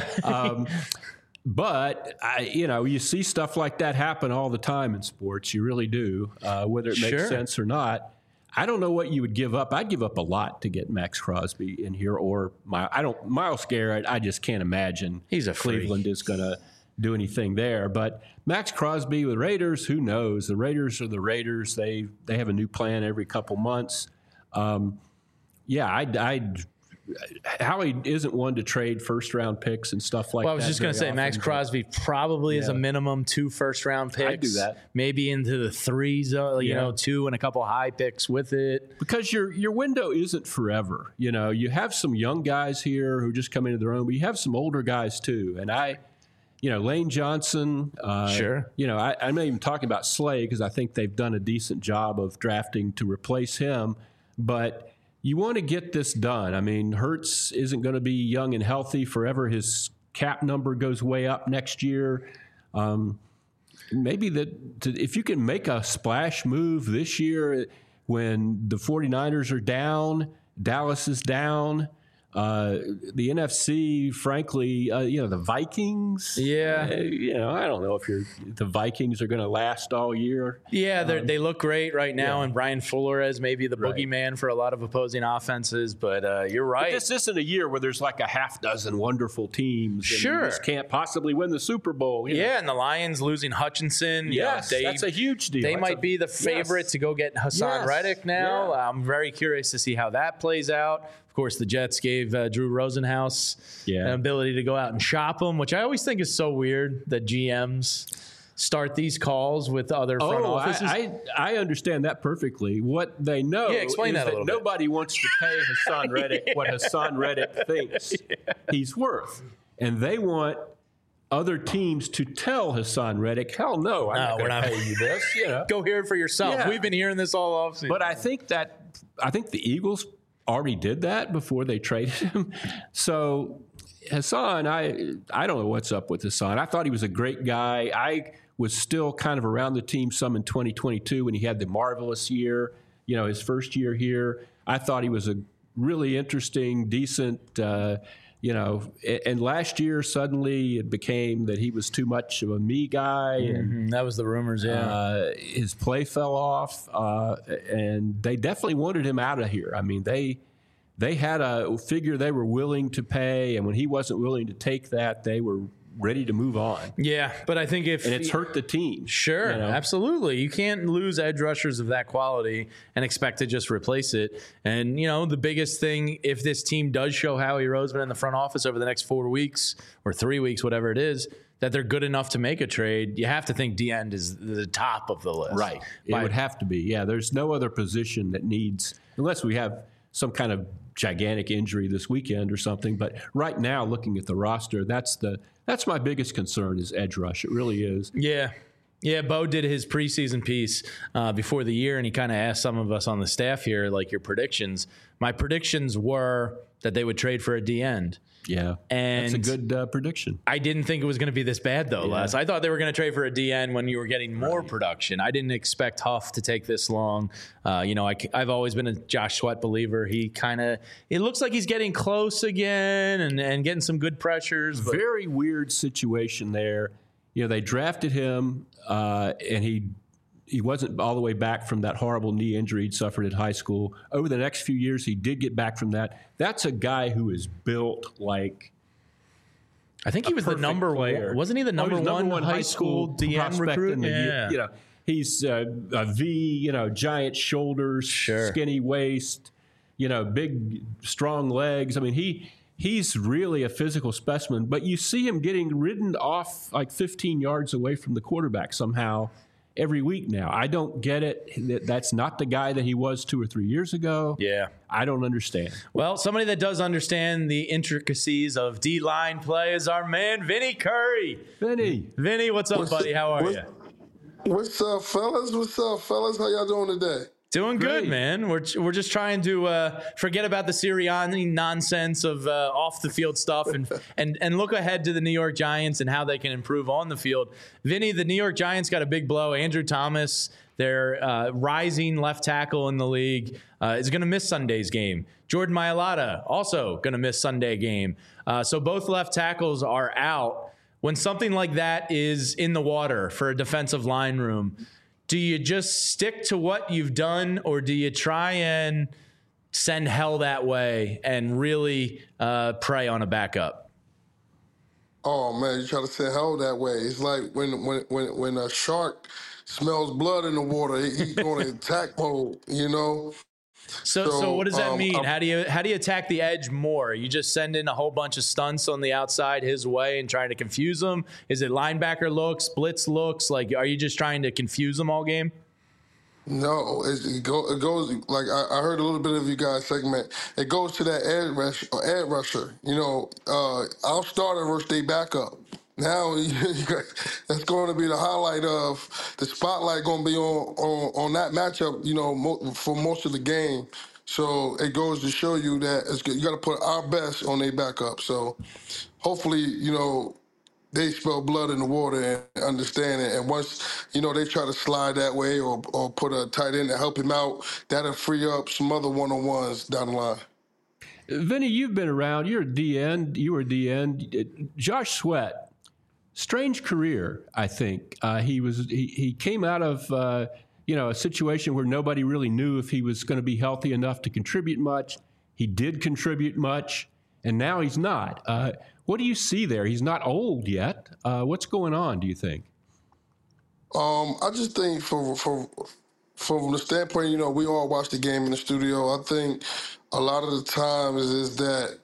But, you see stuff like that happen all the time in sports. You really do, whether it makes sense or not. I don't know what you would give up. I'd give up a lot to get Max Crosby in here or Myles Garrett. I just can't imagine Cleveland is going to do anything there. But Max Crosby with Raiders, who knows? The Raiders are the Raiders. They have a new plan every couple months. Howie isn't one to trade first-round picks and stuff like that. Well, I was just going to say, Max Crosby probably is a minimum 2 first-round picks. I'd do that. Maybe into the 3s, 2 and a couple high picks with it. Because your window isn't forever. You have some young guys here who just come into their own, but you have some older guys too. And Lane Johnson. Sure. I'm not even talking about Slay because I think they've done a decent job of drafting to replace him. But you want to get this done. I mean, Hurts isn't going to be young and healthy forever. His cap number goes way up next year. Maybe if you can make a splash move this year when the 49ers are down, Dallas is down, the NFC, frankly, the Vikings. Yeah. I don't know if the Vikings are going to last all year. Yeah, they look great right now, and Brian Flores may be the boogeyman for a lot of opposing offenses, but you're right. But this isn't a year where there's like a half dozen wonderful teams. Sure. And you just can't possibly win the Super Bowl. Yeah, and the Lions losing Hutchinson. Yes, that's a huge deal. They might be the favorite to go get Hassan Reddick now. Yeah. I'm very curious to see how that plays out. Of course, the Jets gave Drew Rosenhaus an ability to go out and shop him, which I always think is so weird that GMs start these calls with other front offices. I understand that perfectly. What they know is that nobody wants to pay Hassan Reddick what Hassan Reddick thinks he's worth. And they want other teams to tell Hassan Reddick, hell no, I'm not going to pay you this. Go hear it for yourself. Yeah. We've been hearing this all offseason. But I think the Eagles already did that before they traded him. So Hassan, I don't know what's up with Hassan. I thought he was a great guy. I was still kind of around the team some in 2022 when he had the marvelous year, his first year here. I thought he was a really interesting, decent, and last year suddenly it became that he was too much of a me guy. And that was the rumors, yeah. His play fell off, and they definitely wanted him out of here. I mean, they had a figure they were willing to pay, and when he wasn't willing to take that, they were ready to move on. Yeah, but I think and it's hurt the team. Sure, absolutely. You can't lose edge rushers of that quality and expect to just replace it. And, the biggest thing, if this team does show Howie Roseman in the front office over the next 4 weeks or 3 weeks, whatever it is, that they're good enough to make a trade, you have to think D-end is the top of the list. Right. It would have to be. Yeah, there's no other position that needs, unless we have some kind of gigantic injury this weekend or something. But right now, looking at the roster, that's my biggest concern is edge rush. It really is. Yeah. Yeah, Bo did his preseason piece before the year, and he kind of asked some of us on the staff here, like, your predictions. My predictions were that they would trade for a D-end. Yeah, and that's a good prediction. I didn't think it was going to be this bad, though, Les. I thought they were going to trade for a D-end when you were getting more production. I didn't expect Huff to take this long. I've always been a Josh Sweat believer. It looks like he's getting close again and getting some good pressures. But very weird situation there. They drafted him, and he wasn't all the way back from that horrible knee injury he'd suffered in high school. Over the next few years, he did get back from that. That's a guy who is built like I think he was the number player. One. Wasn't he the number one high school DM recruit? Yeah. He's a V, giant shoulders, skinny waist, big, strong legs. I mean, he's really a physical specimen. But you see him getting ridden off like 15 yards away from the quarterback somehow every week now. I don't get it. That's not the guy that he was 2 or 3 years ago. Yeah. I don't understand. Well, somebody that does understand the intricacies of D-line play is our man, Vinny Curry. Vinny, what's up, buddy? How are you? What's up, fellas? How y'all doing today? Doing Great. good, man. We're just trying to forget about the Sirianni nonsense of off the field stuff and look ahead to the New York Giants and how they can improve on the field. Vinny, the New York Giants got a big blow. Andrew Thomas, their rising left tackle in the league, is going to miss Sunday's game. Jordan Mailata also going to miss Sunday game. So both left tackles are out. When something like that is in the water for a defensive line room, do you just stick to what you've done, or do you try and send hell that way and really prey on a backup? Oh man, you try to send hell that way. It's like when a shark smells blood in the water, he's going to attack mode. So what does that mean? How do you attack the edge more? You just send in a whole bunch of stunts on the outside his way and trying to confuse him? Is it linebacker looks, blitz looks? Like, are you just trying to confuse them all game? No, it goes like I heard a little bit of you guys' segment. It goes to that edge rusher. Our starter versus their backup. Now that's going to be the highlight of the spotlight. Going to be on that matchup. For most of the game. So it goes to show you that you got to put our best on their backup. So hopefully, they spill blood in the water and understand it. And once, they try to slide that way or put a tight end to help him out, that'll free up some other one-on-ones down the line. Vinny, you've been around. You're a DN. You were DN. Josh Sweat, strange career, I think. He came out of, a situation where nobody really knew if he was going to be healthy enough to contribute much. He did contribute much, and now he's not. What do you see there? He's not old yet. What's going on, do you think? I just think from the standpoint, we all watch the game in the studio. I think a lot of the times is that,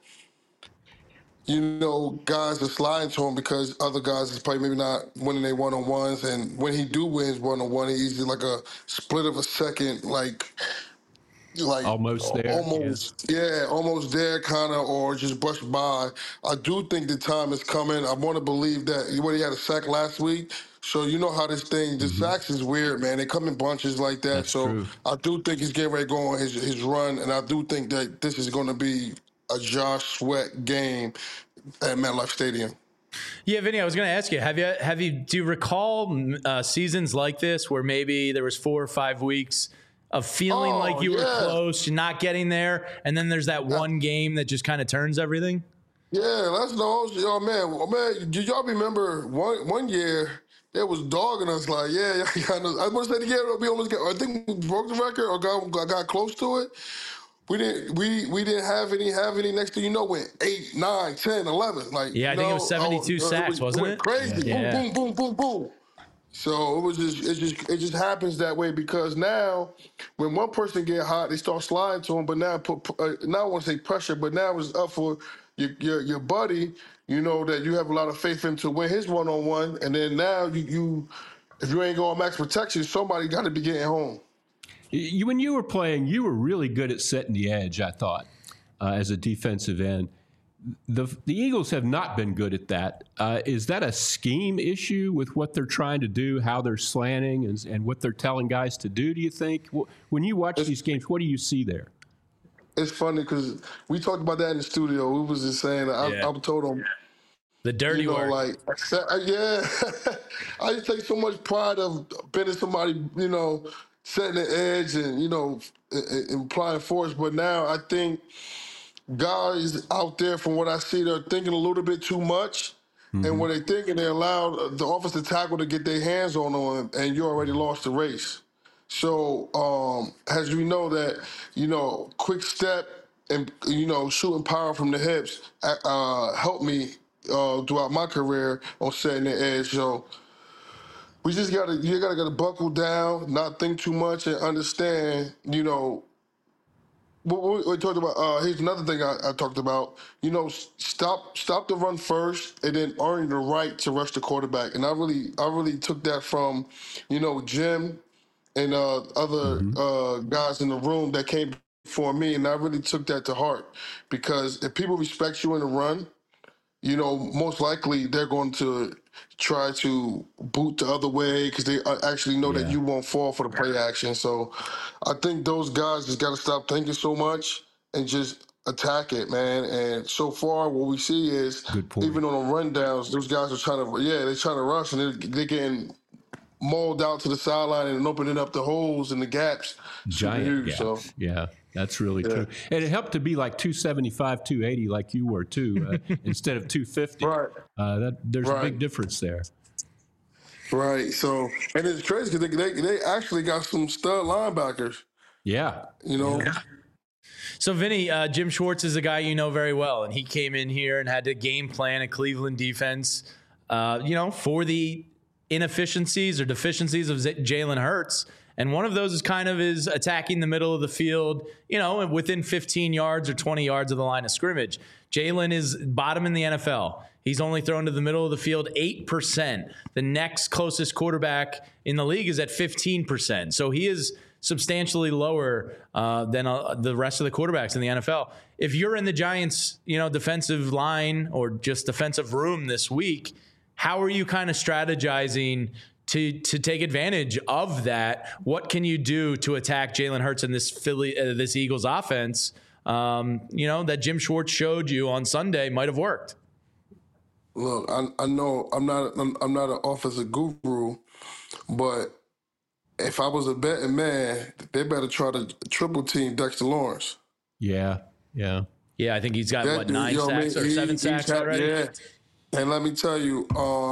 guys are sliding to him because other guys is probably maybe not winning their one-on-ones. And when he do wins one-on-one, he's like a split of a second, like almost there. Almost there, kind of, or just brush by. I do think the time is coming. I want to believe that he had a sack last week, So you know how this thing, the sacks is weird, man. They come in bunches like that. That's so true. I do think he's getting ready to go on his run, and I do think that this is going to be a Josh Sweat game at MetLife Stadium. Yeah, Vinny, I was going to ask you, do you recall seasons like this where maybe there was 4 or 5 weeks of feeling like you were close, not getting there, and then there's that one game that just kind of turns everything? Yeah, that's no, man. Do y'all remember one year they was dogging us like, I want to say the year we almost got. I think we broke the record or got close to it. We didn't have any. Next thing you know, went 8, 9, 10, 11. Like I think it was 72 sacks, wasn't it? Crazy, Yeah. boom, boom, boom, boom, boom. So it just happens that way because now when one person get hot, they start sliding to them. But now now I want to say pressure, but now it's up for your buddy. You know that you have a lot of faith in to win his one-on-one, and then now you if you ain't going max protection, somebody got to be getting home. When you were playing, you were really good at setting the edge, I thought, as a defensive end. The Eagles have not been good at that. Is that a scheme issue with what they're trying to do, how they're slanting, and what they're telling guys to do, do you think? When you watch these games, what do you see there? It's funny because we talked about that in the studio. We was just saying, I told them, the dirty work. Like, I just take so much pride of being somebody, setting the edge and, applying force. But now I think guys out there, from what I see, they're thinking a little bit too much. And when they're thinking, they allow the offensive tackle to get their hands on them, and you already lost the race. So as we know that, quick step and, shooting power from the hips helped me throughout my career on setting the edge. So we just you gotta buckle down, not think too much, and understand, what we talked about. Here's another thing I talked about. Stop the run first, and then earn the right to rush the quarterback. And I really took that from, Jim and other guys in the room that came before me, and I really took that to heart because if people respect you in the run, most likely they're going to try to boot the other way because they actually know that you won't fall for the play action. So I think those guys just got to stop thinking so much and just attack it, man. And so far, what we see is even on the rundowns, those guys are trying to rush, and they're getting mauled out to the sideline and opening up the holes and the gaps. Giant gaps. So. Yeah, that's really true. And it helped to be like 275, 280 like you were too, instead of 250. Right. There's a big difference there. Right. So, and it's crazy because they actually got some stud linebackers. Yeah. Yeah. So, Vinny, Jim Schwartz is a guy you know very well, and he came in here and had to game plan a Cleveland defense, for the inefficiencies or deficiencies of Jalen Hurts. And one of those is attacking the middle of the field, within 15 yards or 20 yards of the line of scrimmage. Jalen is bottom in the NFL. He's only thrown to the middle of the field 8%. The next closest quarterback in the league is at 15%. So he is substantially lower than the rest of the quarterbacks in the NFL. If you're in the Giants, defensive line or just defensive room this week, how are you kind of strategizing to take advantage of that? What can you do to attack Jalen Hurts and this Eagles offense? That Jim Schwartz showed you on Sunday might have worked. Look, I know I'm not an offensive guru, but if I was a betting man, they better try to triple team Dexter Lawrence. Yeah. I think he's got 9 sacks or 7 sacks already. Yeah. And let me tell you,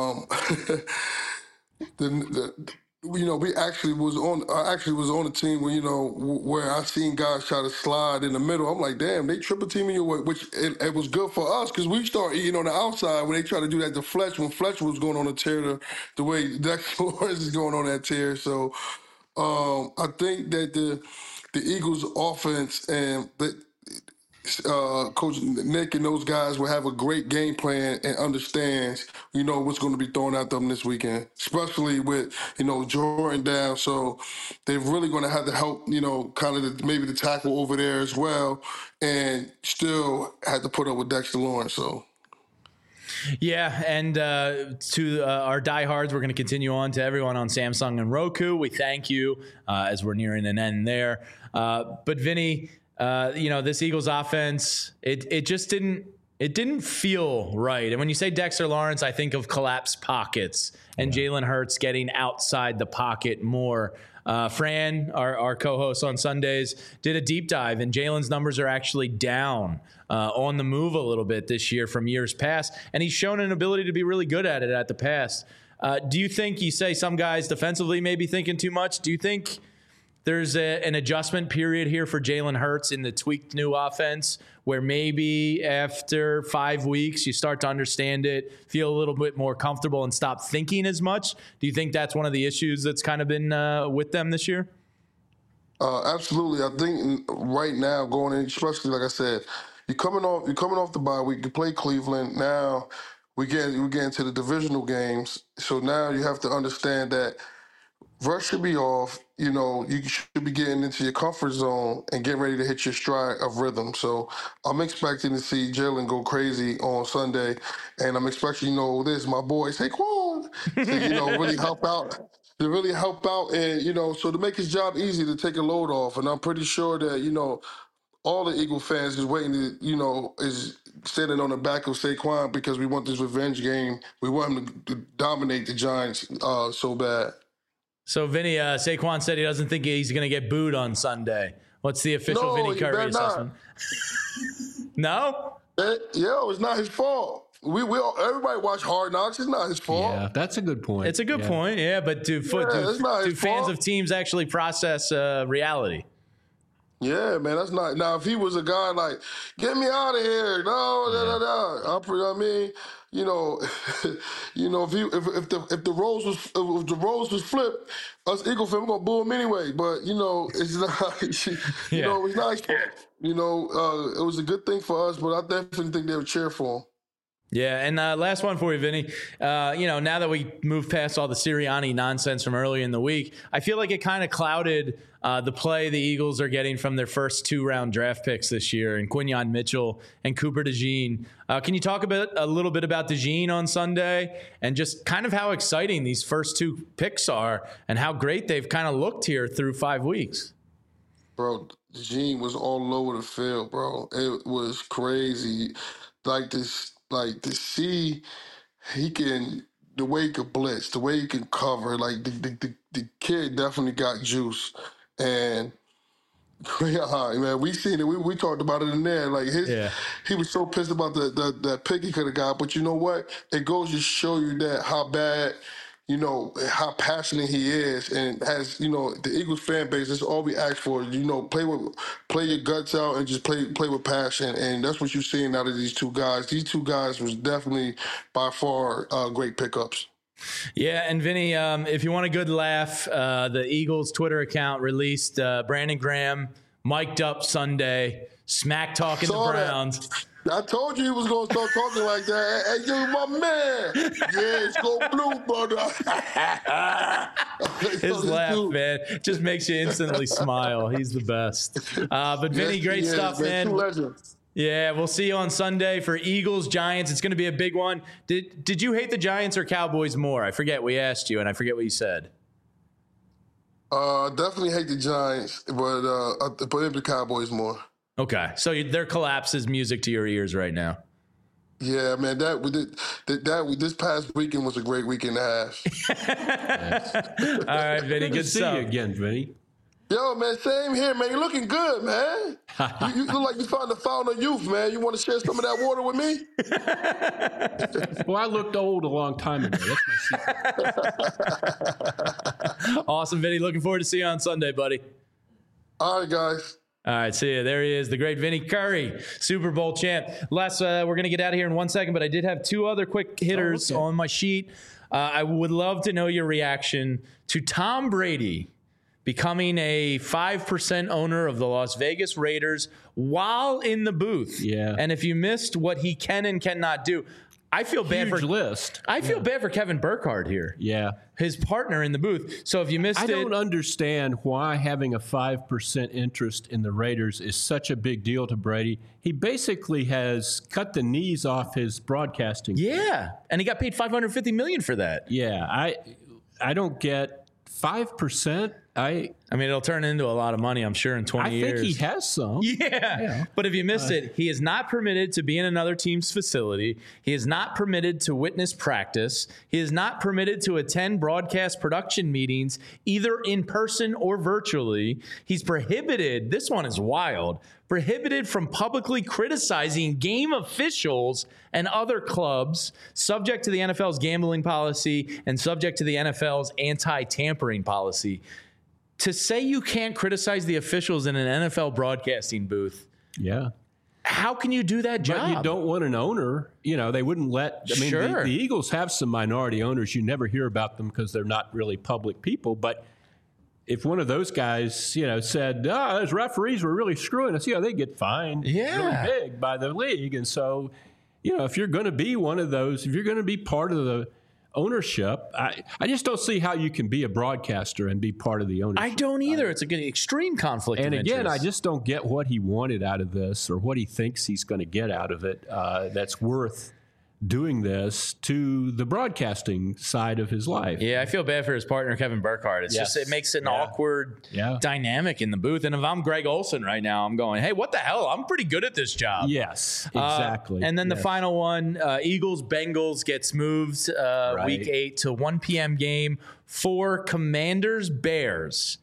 we actually was on a team where where I seen guys try to slide in the middle. I'm like, damn, they triple teaming you, which it was good for us because we start eating on the outside when they try to do that to Fletcher when Fletcher was going on a tear the way Dexter Lawrence is going on that tear. So I think that the Eagles offense and Coach Nick and those guys will have a great game plan and understands, what's going to be thrown at them this weekend, especially with, Jordan down. So they're really going to have to help, kind of maybe the tackle over there as well, and still had to put up with Dexter Lawrence. So. Yeah, and to our diehards, we're going to continue on to everyone on Samsung and Roku. We thank you as we're nearing an end there. But Vinny, this Eagles offense, it just didn't feel right. And when you say Dexter Lawrence, I think of collapsed pockets and Jalen Hurts getting outside the pocket more. Fran, our co-host on Sundays, did a deep dive, and Jalen's numbers are actually down on the move a little bit this year from years past, and he's shown an ability to be really good at it at the pass. Do you think, you say some guys defensively may be thinking too much? Do you think there's an adjustment period here for Jalen Hurts in the tweaked new offense where maybe after 5 weeks you start to understand it, feel a little bit more comfortable, and stop thinking as much? Do you think that's one of the issues that's kind of been with them this year? Absolutely. I think right now, going in, especially like I said, you're coming off the bye week. You play Cleveland. Now we get into the divisional games. So now you have to understand that Rush should be off. You should be getting into your comfort zone and getting ready to hit your stride of rhythm. So I'm expecting to see Jalen go crazy on Sunday, and I'm expecting, this, my boy Saquon, to, really help out. To really help out, and so to make his job easy, to take a load off. And I'm pretty sure that all the Eagle fans is waiting to is standing on the back of Saquon, because we want this revenge game. We want him to dominate the Giants so bad. So Vinny, Saquon said he doesn't think he's going to get booed on Sunday. What's the official Vinny Curry assessment? No? It's not his fault. We everybody watch Hard Knocks. It's not his fault. Yeah, that's a good point. It's a good point. Yeah, but do fans of teams actually process reality? Yeah, man, that's not. Now, if he was a guy like, get me out of here, if the roles was flipped, us Eagle fans, we're gonna boo him anyway. But it's not. It's not his fault. It was a good thing for us, but I definitely think they would cheer for him. Yeah, and last one for you, Vinny. Now that we moved past all the Sirianni nonsense from earlier in the week, I feel like it kind of clouded the play the Eagles are getting from their first 2-round draft picks this year, and Quinyon Mitchell and Cooper DeJean. Can you talk a little bit about DeJean on Sunday, and just kind of how exciting these first 2 picks are, and how great they've kind of looked here through 5 weeks? Bro, DeJean was all over the field, bro. It was crazy. To see the way he could blitz, the way he can cover, the kid definitely got juice. And man, we seen it. We talked about it in there. He was so pissed about that pick he could have got. But you know what? It goes to show you that how bad, how passionate he is, and has, the Eagles fan base, that's all we ask for. Play your guts out and just play with passion. And that's what you're seeing out of these 2 guys. These 2 guys was definitely by far great pickups. Yeah, and Vinny, if you want a good laugh, the Eagles Twitter account released Brandon Graham mic'd up Sunday, smack talking the Browns. I told you he was going to start talking like that. Hey, you my man. Yeah, it's go blue, brother. His laugh, man, just makes you instantly smile. He's the best. But Vinny, great stuff, man. 2 legends. Yeah, we'll see you on Sunday for Eagles Giants. It's going to be a big one. Did you hate the Giants or Cowboys more? I forget. We asked you, and I forget what you said. Definitely hate the Giants, but the Cowboys more. Okay, so their collapse is music to your ears right now. Yeah, man, this past weekend was a great weekend and a half. All right, Vinny, good stuff. See you again, Vinny. Yo, man, same here, man. You're looking good, man. You look like you found the fountain of youth, man. You want to share some of that water with me? Well, I looked old a long time ago. That's my secret. Awesome, Vinny. Looking forward to see you on Sunday, buddy. All right, guys. All right, see you. There he is, the great Vinny Curry, Super Bowl champ. Les, we're going to get out of here in 1 second, but I did have 2 other quick hitters on my sheet. I would love to know your reaction to Tom Brady becoming a 5% owner of the Las Vegas Raiders while in the booth. Yeah. And if you missed what he can and cannot do, I feel bad Huge for list. I feel bad for Kevin Burkhardt here. Yeah. His partner in the booth. So if you missed I it, don't understand why having a 5% interest in the Raiders is such a big deal to Brady. He basically has cut the knees off his broadcasting. yeah, and he got paid $550 million for that. Yeah, I don't get 5%. I mean, it'll turn into a lot of money, I'm sure, in 20 years. think he has some. Yeah. But if you missed it, he is not permitted to be in another team's facility. He is not permitted to witness practice. He is not permitted to attend broadcast production meetings, either in person or virtually. He's prohibited, this one is wild, prohibited from publicly criticizing game officials and other clubs, subject to the NFL's gambling policy and subject to the NFL's anti-tampering policy. To say you can't criticize the officials in an NFL broadcasting booth, Yeah. how can you do that job? But you don't want an owner. You know, they wouldn't let. I mean, Sure. the Eagles have some minority owners. You never hear about them because they're not really public people. But if one of those guys, you know, said, those referees were really screwing us, they get fined Yeah. really big by the league. And so, you know, if you're going to be one of those, if you're going to be part of the ownership, I just don't see how you can be a broadcaster and be part of the ownership. I don't either. It's an extreme conflict And of again, interest. I just don't get what he wanted out of this or what he thinks he's going to get out of it that's worth doing this to the broadcasting side of his life. Yeah, I feel bad for his partner, Kevin Burkhardt. It's Yes. just, it makes it an Yeah. awkward Yeah. dynamic in the booth. And if I'm Greg Olson right now, I'm going, hey, what the hell? I'm pretty good at this job. Yes, exactly. And then the Yes. final one, Eagles-Bengals gets moved week 8 to 1 p.m. game for Commanders-Bears.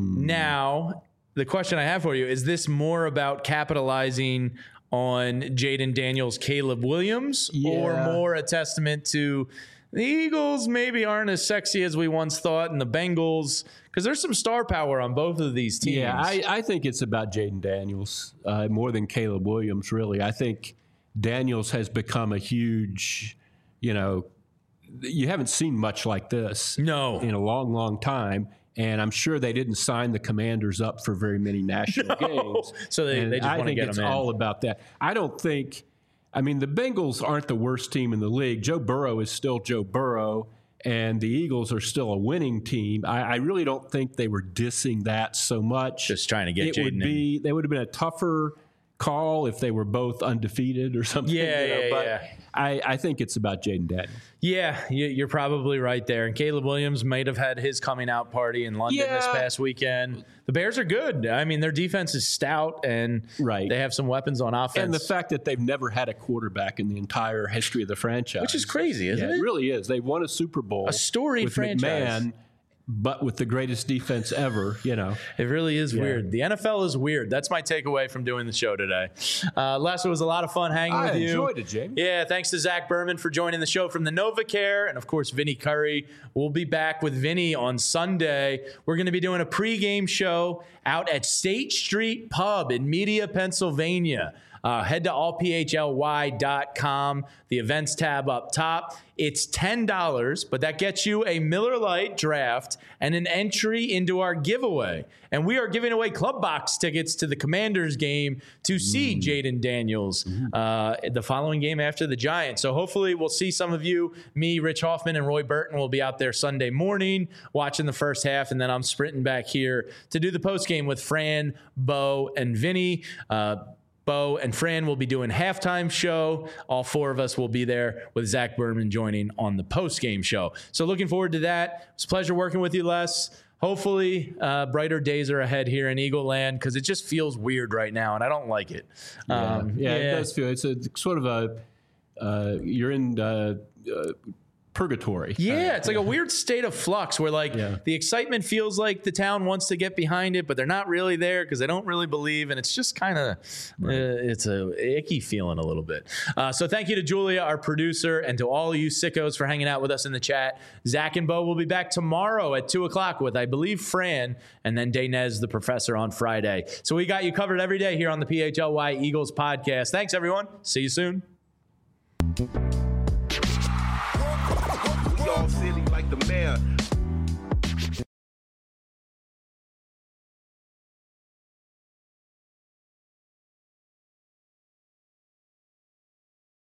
Now, the question I have for you, is this more about capitalizing on Jaden Daniels, Caleb Williams, or Yeah. more a testament to the Eagles maybe aren't as sexy as we once thought, and the Bengals, because there's some star power on both of these teams. Yeah, I think it's about Jaden Daniels more than Caleb Williams, really. I think Daniels has become a huge, you haven't seen much like this No. in a long, long time. And I'm sure they didn't sign the Commanders up for very many national games. So they just I want to think get it's them in. all about that. I don't think, the Bengals aren't the worst team in the league. Joe Burrow is still Joe Burrow, and the Eagles are still a winning team. I really don't think they were dissing that so much. Just trying to get They would have been a tougher call if they were both undefeated or something. Yeah, but yeah. I think it's about Jaden Daniels. Yeah, you're probably right there. And Caleb Williams might have had his coming out party in London this past weekend. The Bears are good. I mean, their defense is stout, and they have some weapons on offense. And the fact that they've never had a quarterback in the entire history of the franchise. Which is crazy, isn't it? It really is. They've won a Super Bowl. A storied with franchise. McMahon, but with the greatest defense ever, It really is weird. The NFL is weird. That's my takeaway from doing the show today. Les, it was a lot of fun hanging with you. I enjoyed it, Jamie. Yeah, thanks to Zach Berman for joining the show from the NovaCare. And, of course, Vinny Curry. We'll be back with Vinny on Sunday. We're going to be doing a pregame show out at State Street Pub in Media, Pennsylvania. Head to allphly.com, the events tab up top. It's $10, but that gets you a Miller Lite draft and an entry into our giveaway. And we are giving away club box tickets to the Commanders game to see Jaden Daniels the following game after the Giants. So hopefully we'll see some of you. Me, Rich Hoffman, and Roy Burton will be out there Sunday morning watching the first half, and then I'm sprinting back here to do the postgame with Fran, Bo, and Vinny. Bo and Fran will be doing halftime show. All four of us will be there with Zach Berman joining on the post-game show. So looking forward to that. It's a pleasure working with you, Les. Hopefully, brighter days are ahead here in Eagle Land because it just feels weird right now, and I don't like it. It does feel. It's a sort of a you're in purgatory. Yeah, it's like a weird state of flux where the excitement feels like the town wants to get behind it, but they're not really there because they don't really believe, and it's just kind of it's a icky feeling a little bit. So thank you to Julia, our producer, and to all you sickos for hanging out with us in the chat. Zach and Bo will be back tomorrow at 2:00 with, I believe, Fran, and then Daynez, the professor, on Friday. So we got you covered every day here on the PHLY Eagles podcast. Thanks, everyone. See you soon. All silly like the mayor.